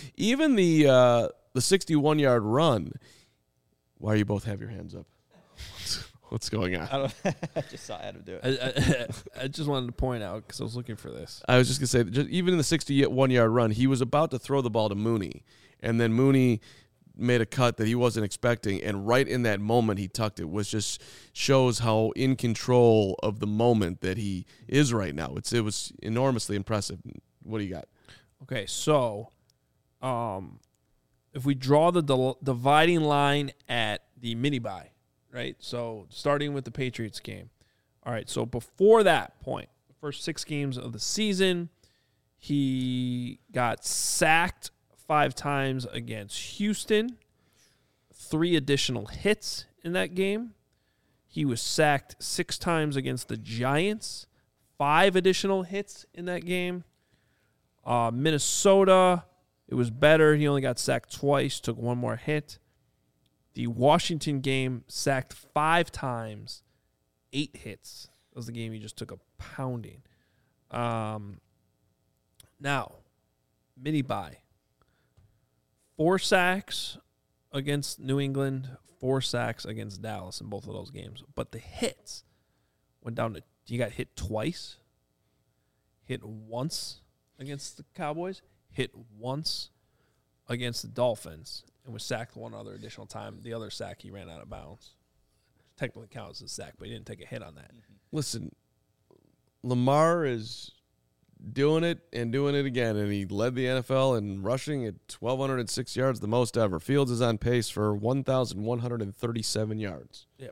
61-yard run. Why you both have your hands up? What's going on? I just saw Adam do it. I just wanted to point out because I was looking for this. I was just going to say, even in the 61-yard run, he was about to throw the ball to Mooney, and then Mooney made a cut that he wasn't expecting, and right in that moment he tucked it, which just shows how in control of the moment that he is right now. It was enormously impressive. What do you got? Okay, so if we draw the dividing line at the mini-bye, right? So starting with the Patriots game. All right, so before that point, the first 6 games of the season, he got sacked 5 times against Houston, 3 additional hits in that game. He was sacked 6 times against the Giants, 5 additional hits in that game. Minnesota, it was better. He only got sacked twice, took 1 more hit. The Washington game, sacked 5 times, 8 hits. That was the game he just took a pounding. Now, mini bye. 4 sacks against New England, 4 sacks against Dallas in both of those games. But the hits went down to, you got hit twice, hit once against the Cowboys, hit once against the Dolphins, and was sacked one other additional time. The other sack, he ran out of bounds. Technically counts as a sack, but he didn't take a hit on that. Listen, Lamar is doing it and doing it again, and he led the NFL in rushing at 1,206 yards, the most ever. Fields is on pace for 1,137 yards. Yeah.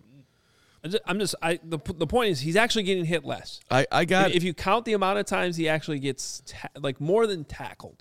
The point is he's actually getting hit less. I got if you count the amount of times he actually gets more than tackled.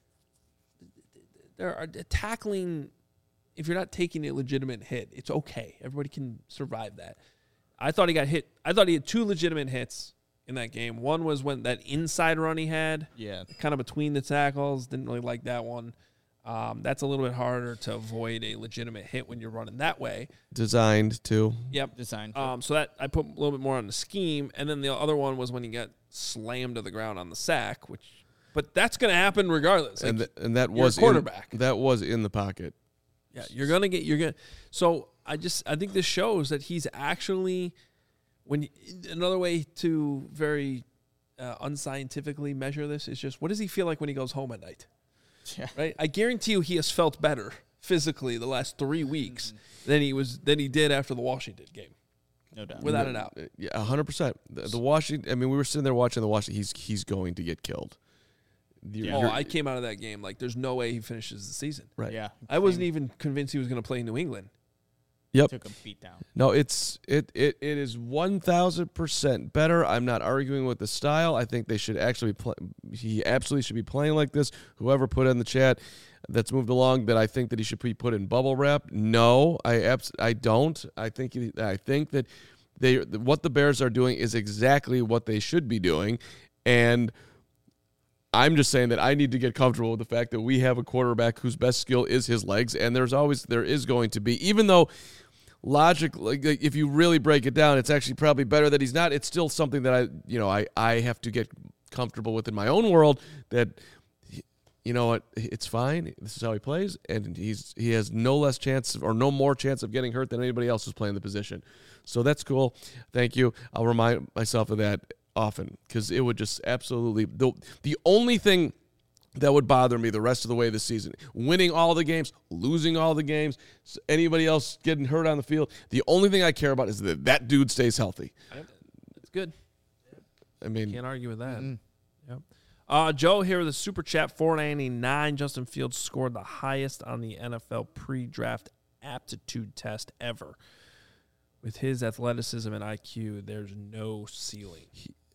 There are tackling. If you're not taking a legitimate hit, it's okay. Everybody can survive that. I thought he got hit. I thought he had 2 legitimate hits in that game. One was when that inside run he had, kind of between the tackles. Didn't really like that one. That's a little bit harder to avoid a legitimate hit when you're running that way. Designed to. Yep. Designed. So that I put a little bit more on the scheme, and then the other one was when he got slammed to the ground on the sack, but that's going to happen regardless. Like, and that was quarterback. That was in the pocket. Yeah, you're gonna. So I think this shows that he's actually another way to very unscientifically measure this is just what does he feel like when he goes home at night? Yeah. Right. I guarantee you he has felt better physically the last 3 weeks than he did after the Washington game. No doubt. Without a doubt. Yeah, 100%. The Washington. I mean, we were sitting there watching the Washington. He's going to get killed. I came out of that game like there's no way he finishes the season. Right. Yeah. I wasn't even convinced he was going to play New England. Yep. Took a beat down. No, it is 1,000% better. I'm not arguing with the style. I think they should actually play. He absolutely should be playing like this. Whoever put in the chat that's moved along that I think that he should be put in bubble wrap. No, I don't. I think that what the Bears are doing is exactly what they should be doing, and I'm just saying that I need to get comfortable with the fact that we have a quarterback whose best skill is his legs, and there is going to be, even though logically, if you really break it down, it's actually probably better that he's not. It's still something that I have to get comfortable with in my own world. That you know what, it's fine. This is how he plays, and he has no less chance or no more chance of getting hurt than anybody else who's playing the position. So that's cool. Thank you. I'll remind myself of that often because it would just absolutely the only thing that would bother me the rest of the way this season, winning all the games, losing all the games, anybody else getting hurt on the field, the only thing I care about is that dude stays healthy. It's good. I mean, Can't argue with that. Yep. Joe here with a super chat, $4.99. Justin Fields scored the highest on the NFL pre-draft aptitude test ever. With his athleticism and IQ, there's no ceiling.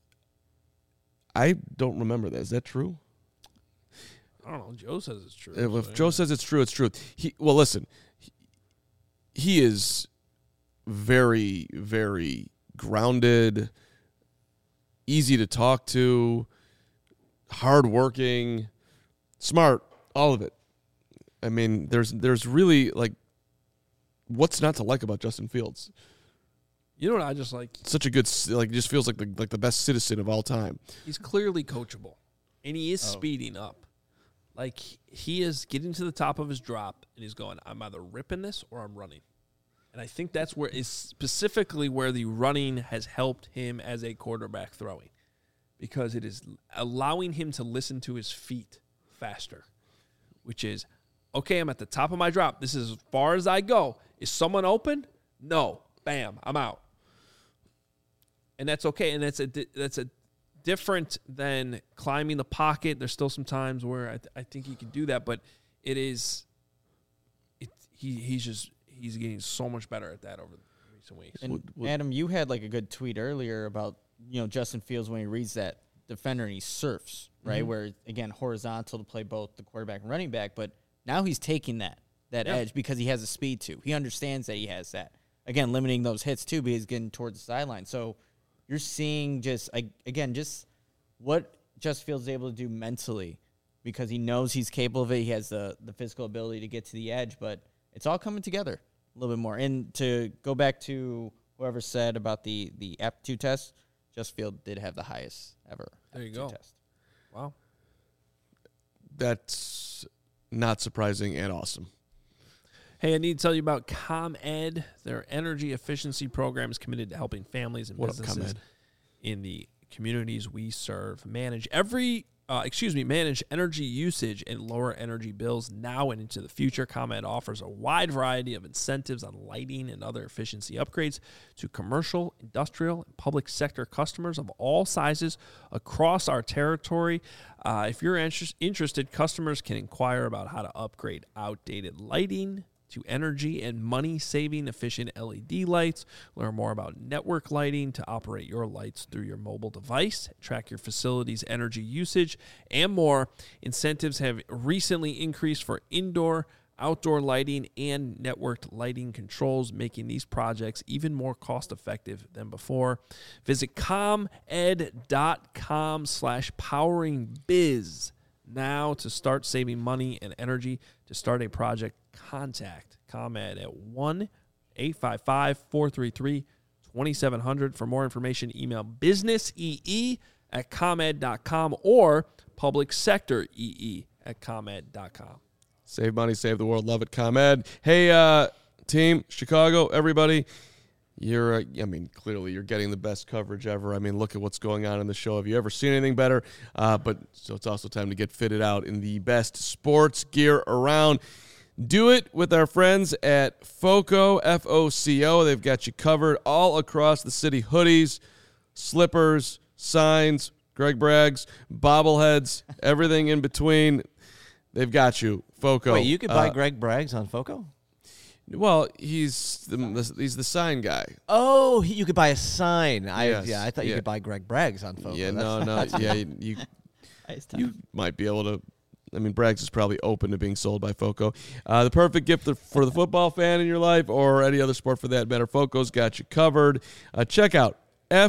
I don't remember that. Is that true? I don't know. Joe says it's true. If Joe says it's true, it's true. Listen, he is very, very grounded, easy to talk to, hardworking, smart, all of it. I mean, there's really, like, what's not to like about Justin Fields? You know what I just like? Such a good, like, just feels like the best citizen of all time. He's clearly coachable, and he is speeding up. Like, he is getting to the top of his drop, and he's going, I'm either ripping this or I'm running. And I think that's where is specifically where the running has helped him as a quarterback throwing, because it is allowing him to listen to his feet faster, which is, okay, I'm at the top of my drop. This is as far as I go. Is someone open? No. Bam, I'm out. And that's okay. And that's a different than climbing the pocket. There's still some times where I think he can do that, but he's getting so much better at that over the recent weeks. And Adam, you had like a good tweet earlier about Justin Fields when he reads that defender and he surfs, right? Mm-hmm. Where again horizontal to play both the quarterback and running back, but now he's taking that edge because he has the speed too. He understands that he has that. Again, limiting those hits too, because he's getting towards the sideline. So you're seeing just what Justin Fields is able to do mentally, because he knows he's capable of it. He has the physical ability to get to the edge, but it's all coming together a little bit more. And to go back to whoever said about the aptitude test, Justin Fields did have the highest ever. There you go. Test. Wow. that's not surprising and awesome. Hey, I need to tell you about ComEd. Their energy efficiency program is committed to helping families and businesses in the communities we serve manage energy usage and lower energy bills now and into the future. ComEd offers a wide variety of incentives on lighting and other efficiency upgrades to commercial, industrial, and public sector customers of all sizes across our territory. If you're interested, customers can inquire about how to upgrade outdated lighting to energy and money-saving efficient LED lights. Learn more about network lighting to operate your lights through your mobile device, track your facility's energy usage, and more. Incentives have recently increased for indoor, outdoor lighting, and networked lighting controls, making these projects even more cost-effective than before. Visit comed.com/poweringbiz now to start saving money and energy. To start a project, contact ComEd at 1-855-433-2700. For more information, email businessee@comed.com or publicsectoree@comed.com. Save money, save the world. Love it, ComEd. Hey, team, Chicago, everybody. Clearly you're getting the best coverage ever. I mean, look at what's going on in the show. Have you ever seen anything better? So it's also time to get fitted out in the best sports gear around. Do it with our friends at FOCO, F-O-C-O. They've got you covered all across the city. Hoodies, slippers, signs, Greg Braggs, bobbleheads, everything in between. They've got you. FOCO. Wait, you could buy Greg Braggs on FOCO? Well, he's the sign guy. Oh, you could buy a sign. Yes. I thought you could buy Greg Braggs on FOCO. Yeah, no. Yeah, you might be able to. I mean, Braggs is probably open to being sold by FOCO. The perfect gift for the football fan in your life or any other sport for that matter. FOCO's got you covered. Check out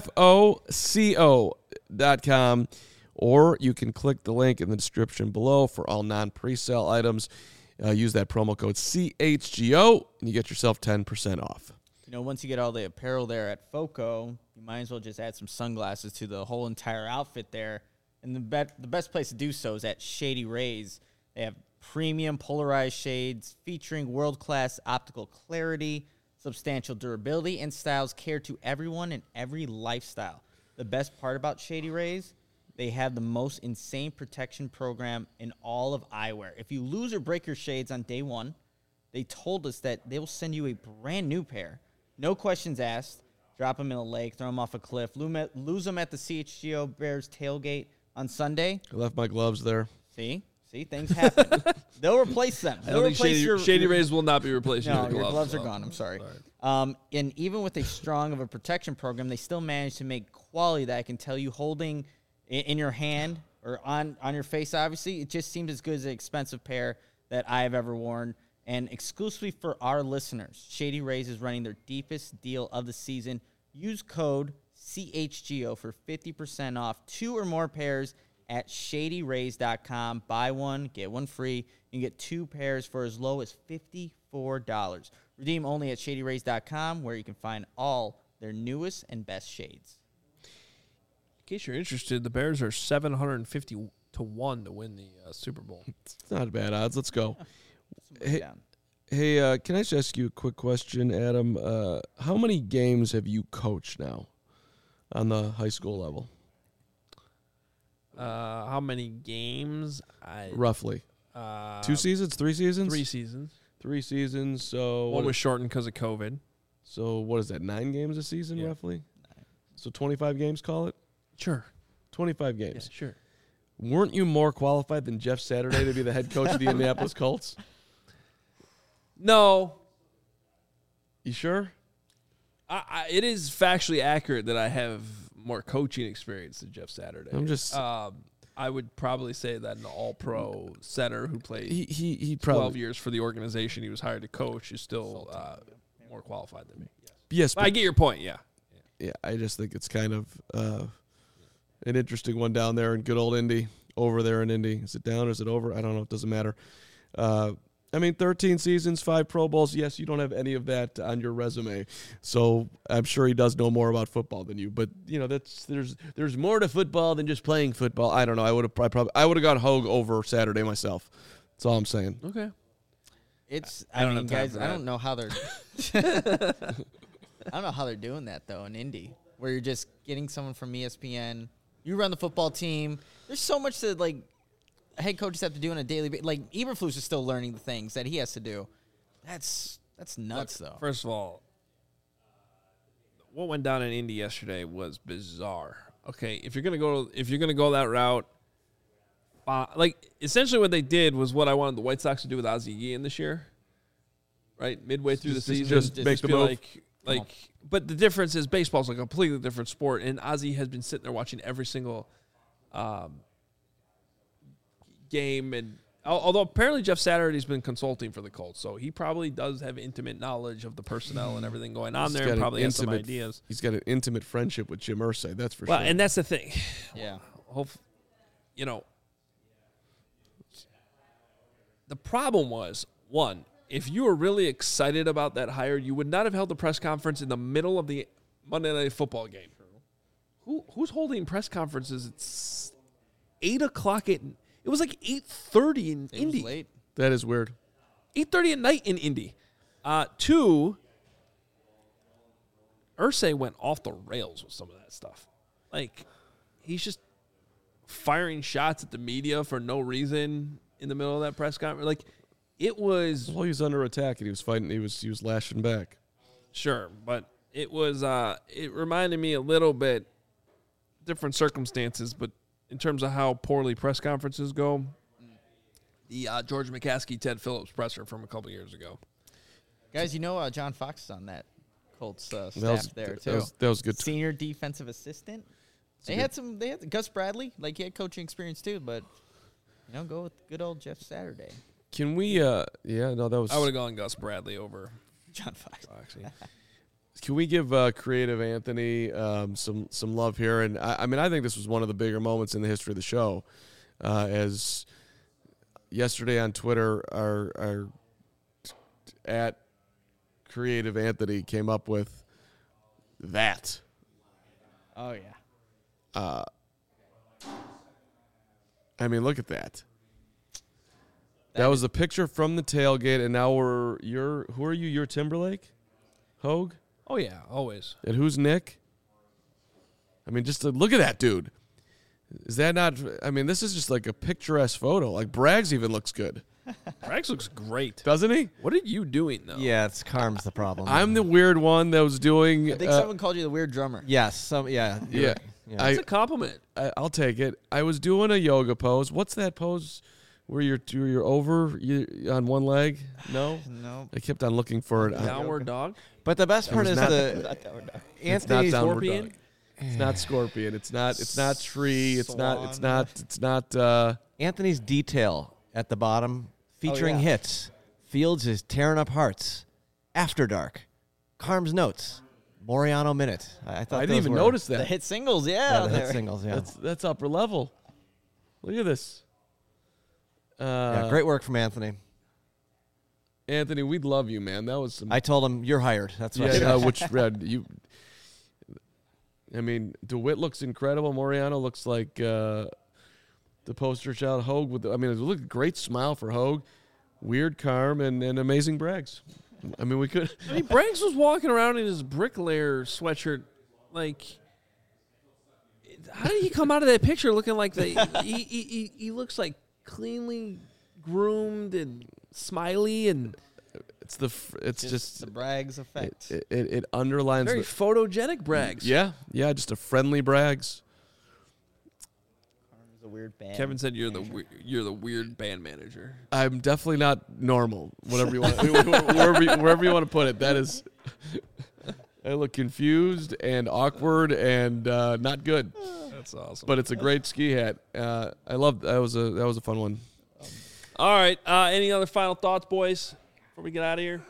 FOCO.com, or you can click the link in the description below for all non-presale items. Use that promo code CHGO, and you get yourself 10% off. Once you get all the apparel there at FOCO, you might as well just add some sunglasses to the whole entire outfit there. And the best place to do so is at Shady Rays. They have premium polarized shades featuring world-class optical clarity, substantial durability, and styles cater to everyone and every lifestyle. The best part about Shady Rays, they have the most insane protection program in all of eyewear. If you lose or break your shades on day one, they told us that they will send you a brand new pair. No questions asked. Drop them in a lake, throw them off a cliff, lose them at the CHGO Bears tailgate on Sunday. I left my gloves there. See, things happen. They'll replace them. I don't think Shady Rays will not be replacing your gloves. Your gloves are gone. I'm sorry. And even with a strong of a protection program, they still manage to make quality that I can tell you holding in your hand or on your face, obviously. It just seems as good as an expensive pair that I have ever worn. And exclusively for our listeners, Shady Rays is running their deepest deal of the season. Use code CHGO for 50% off 2 or more pairs at shadyrays.com. Buy one, get one free. You can get 2 pairs for as low as $54. Redeem only at shadyrays.com, where you can find all their newest and best shades. In case you're interested, the Bears are 750 to 1 to win the Super Bowl. It's not bad odds. Let's go. Hey, can I just ask you a quick question, Adam? How many games have you coached now on the high school level? How many games? Roughly. 2 seasons? 3 seasons? 3 seasons. 3 seasons. So one was shortened because of COVID. So what is that? 9 games a season, roughly? 9. So 25 games, call it? Sure. 25 games. Yeah, sure. Weren't you more qualified than Jeff Saturday to be the head coach of the Indianapolis Colts? No. You sure? It is factually accurate that I have more coaching experience than Jeff Saturday. I'm just. I would probably say that an all-pro center who played he 12 years for the organization he was hired to coach is still more qualified than me. Yes, but I get your point. Yeah. Yeah, I just think it's kind of an interesting one down there in good old Indy. Over there in Indy, is it down or is it over? I don't know. It doesn't matter. I mean, 13 seasons, 5 Pro Bowls. Yes, you don't have any of that on your resume, so I'm sure he does know more about football than you. But there's more to football than just playing football. I don't know. I would have gone Hogue over Saturday myself. That's all I'm saying. Okay. I mean, guys, I don't know how they're. I don't know how they're doing that though in Indy, where you're just getting someone from ESPN. You run the football team. There's so much that head coaches have to do on a daily basis. Like Eberflus is still learning the things that he has to do. That's nuts though. First of all, what went down in Indy yesterday was bizarre. Okay, if you're gonna go that route, essentially what they did was what I wanted the White Sox to do with Ozzie Guillen this year. Right, midway through the season, just make the move. But the difference is baseball's a completely different sport, and Ozzie has been sitting there watching every single game. And although apparently Jeff Saturday's been consulting for the Colts, so he probably does have intimate knowledge of the personnel and everything going on there, and probably has some ideas. He's got an intimate friendship with Jim Irsay, that's for sure. Well, and that's the thing. Yeah. The problem was, one, if you were really excited about that hire, you would not have held the press conference in the middle of the Monday Night Football game. Who's holding press conferences? It's 8 o'clock at. It was like 8:30 in Indy. It was late. That is weird. 8:30 at night in Indy. 2, Irsay went off the rails with some of that stuff. Like, he's just firing shots at the media for no reason in the middle of that press conference. Like, it was. Well, he was under attack and he was fighting. He was lashing back. Sure, but it was. It reminded me a little bit, different circumstances, but in terms of how poorly press conferences go, the George McCaskey, Ted Phillips presser from a couple years ago. Guys, John Fox is on that Colts staff there too. That was good. Senior defensive assistant. They had Gus Bradley, he had coaching experience too, but go with good old Jeff Saturday. Can we? That was. I would have gone Gus Bradley over John Fox. Can we give Creative Anthony some love here? And I think this was one of the bigger moments in the history of the show. As yesterday on Twitter, our at Creative Anthony came up with that. Oh yeah. Look at that. That was a picture from the tailgate, and now who are you? You're Timberlake? Hogue? Oh, yeah, always. And who's Nick? Just to look at that dude. Is that not... this is just like a picturesque photo. Like, Braggs even looks good. Braggs looks great. Doesn't he? What are you doing, though? Yeah, it's Carm's the problem. I'm the weird one that was doing... I think someone called you the weird drummer. Yes. Yeah. It's a compliment. I'll take it. I was doing a yoga pose. What's that pose where you're over on one leg? No? No. I kept on looking for it. Downward dog? But the best part is the Anthony Scorpion. It's not Scorpion. It's not tree. It's not. Anthony's detail at the bottom featuring hits. Fields is tearing up hearts. After Dark. Carm's notes. Moriano minute. I didn't even notice that. The hit singles, the hit singles, yeah. That's upper level. Look at this. Great work from Anthony. Anthony, we'd love you, man. That was some. I told him you're hired. That's what I said. you. DeWitt looks incredible. Moriano looks like the poster child. Hogue with. Look, great smile for Hogue. Weird Carm and amazing Braggs. We could. Braggs was walking around in his bricklayer sweatshirt, like. How did he come out of that picture looking like he looks like cleanly groomed and smiley, and it's just the Braggs effect. It underlines very photogenic Braggs. Yeah, just a friendly Braggs. Carm's a weird band. Kevin said you're the weird band manager. I'm definitely not normal. Whatever you want, wherever you want to put it. That is. I look confused and awkward and not good. That's awesome. But it's a great ski hat. I love that was a fun one. All right. Any other final thoughts, boys, before we get out of here?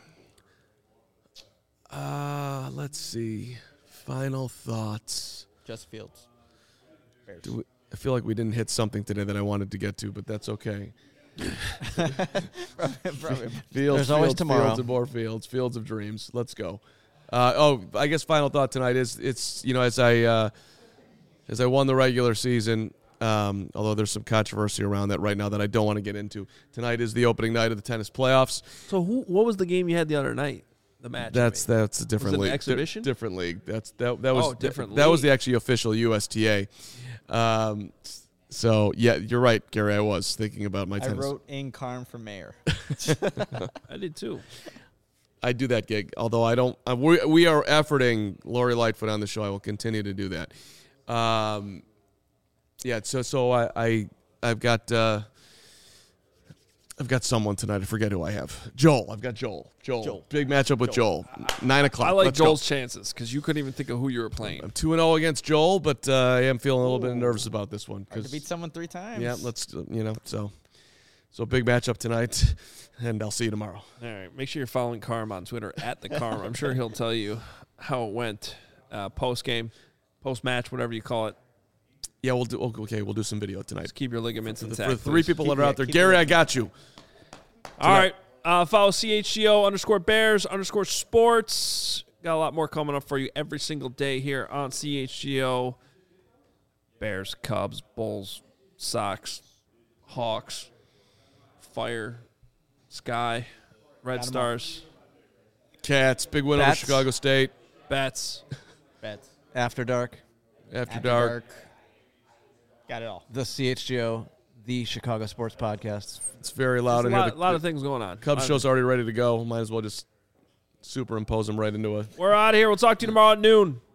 Let's see. Final thoughts. Just Fields. I feel like we didn't hit something today that I wanted to get to, but that's okay. There's always tomorrow. Fields and more fields. Fields of dreams. Let's go. I guess final thought tonight is it's as I won the regular season. Although there's some controversy around that right now that I don't want to get into. Tonight is the opening night of the tennis playoffs. So what was the game you had the other night? The match. That's a different Was it league. an exhibition? Different league. That was different That was league. the actually official USTA. So yeah, you're right, Gary. I was thinking about my I tennis. wrote in Carm for mayor. I did too. I do that gig, although I don't. We are efforting Lori Lightfoot on the show. I will continue to do that. Yeah. So I've got someone tonight. I forget who I have. Joel. I've got Joel. Big matchup with Joel. 9 o'clock. I like Let's Joel's go. chances because you couldn't even think of who you were playing. I'm 2-0 against Joel, but I am feeling a little bit nervous about this one. Hard to beat someone 3 times. Yeah, so big matchup tonight, and I'll see you tomorrow. All right. Make sure you're following Carm on Twitter @thecarm. I'm sure he'll tell you how it went post game, post match, whatever you call it. Yeah, we'll do some video tonight. Just keep your ligaments For intact. the 3 people that are out there, keep Gary, it- I got you. All right. Follow CHGO_Bears_sports. Got a lot more coming up for you every single day here on CHGO. Bears, Cubs, Bulls, Sox, Hawks, Fire, Sky, Red Stars, Cats, big win over Bats. Chicago State. Bats. Bets. After dark, After dark. Got it all. the CHGO, the Chicago Sports Podcast. It's very loud There's in a here. lot, lot of things going on. Cubs show's already ready to go. Might as well just superimpose them right into a We're out of here. We'll talk to you tomorrow at noon.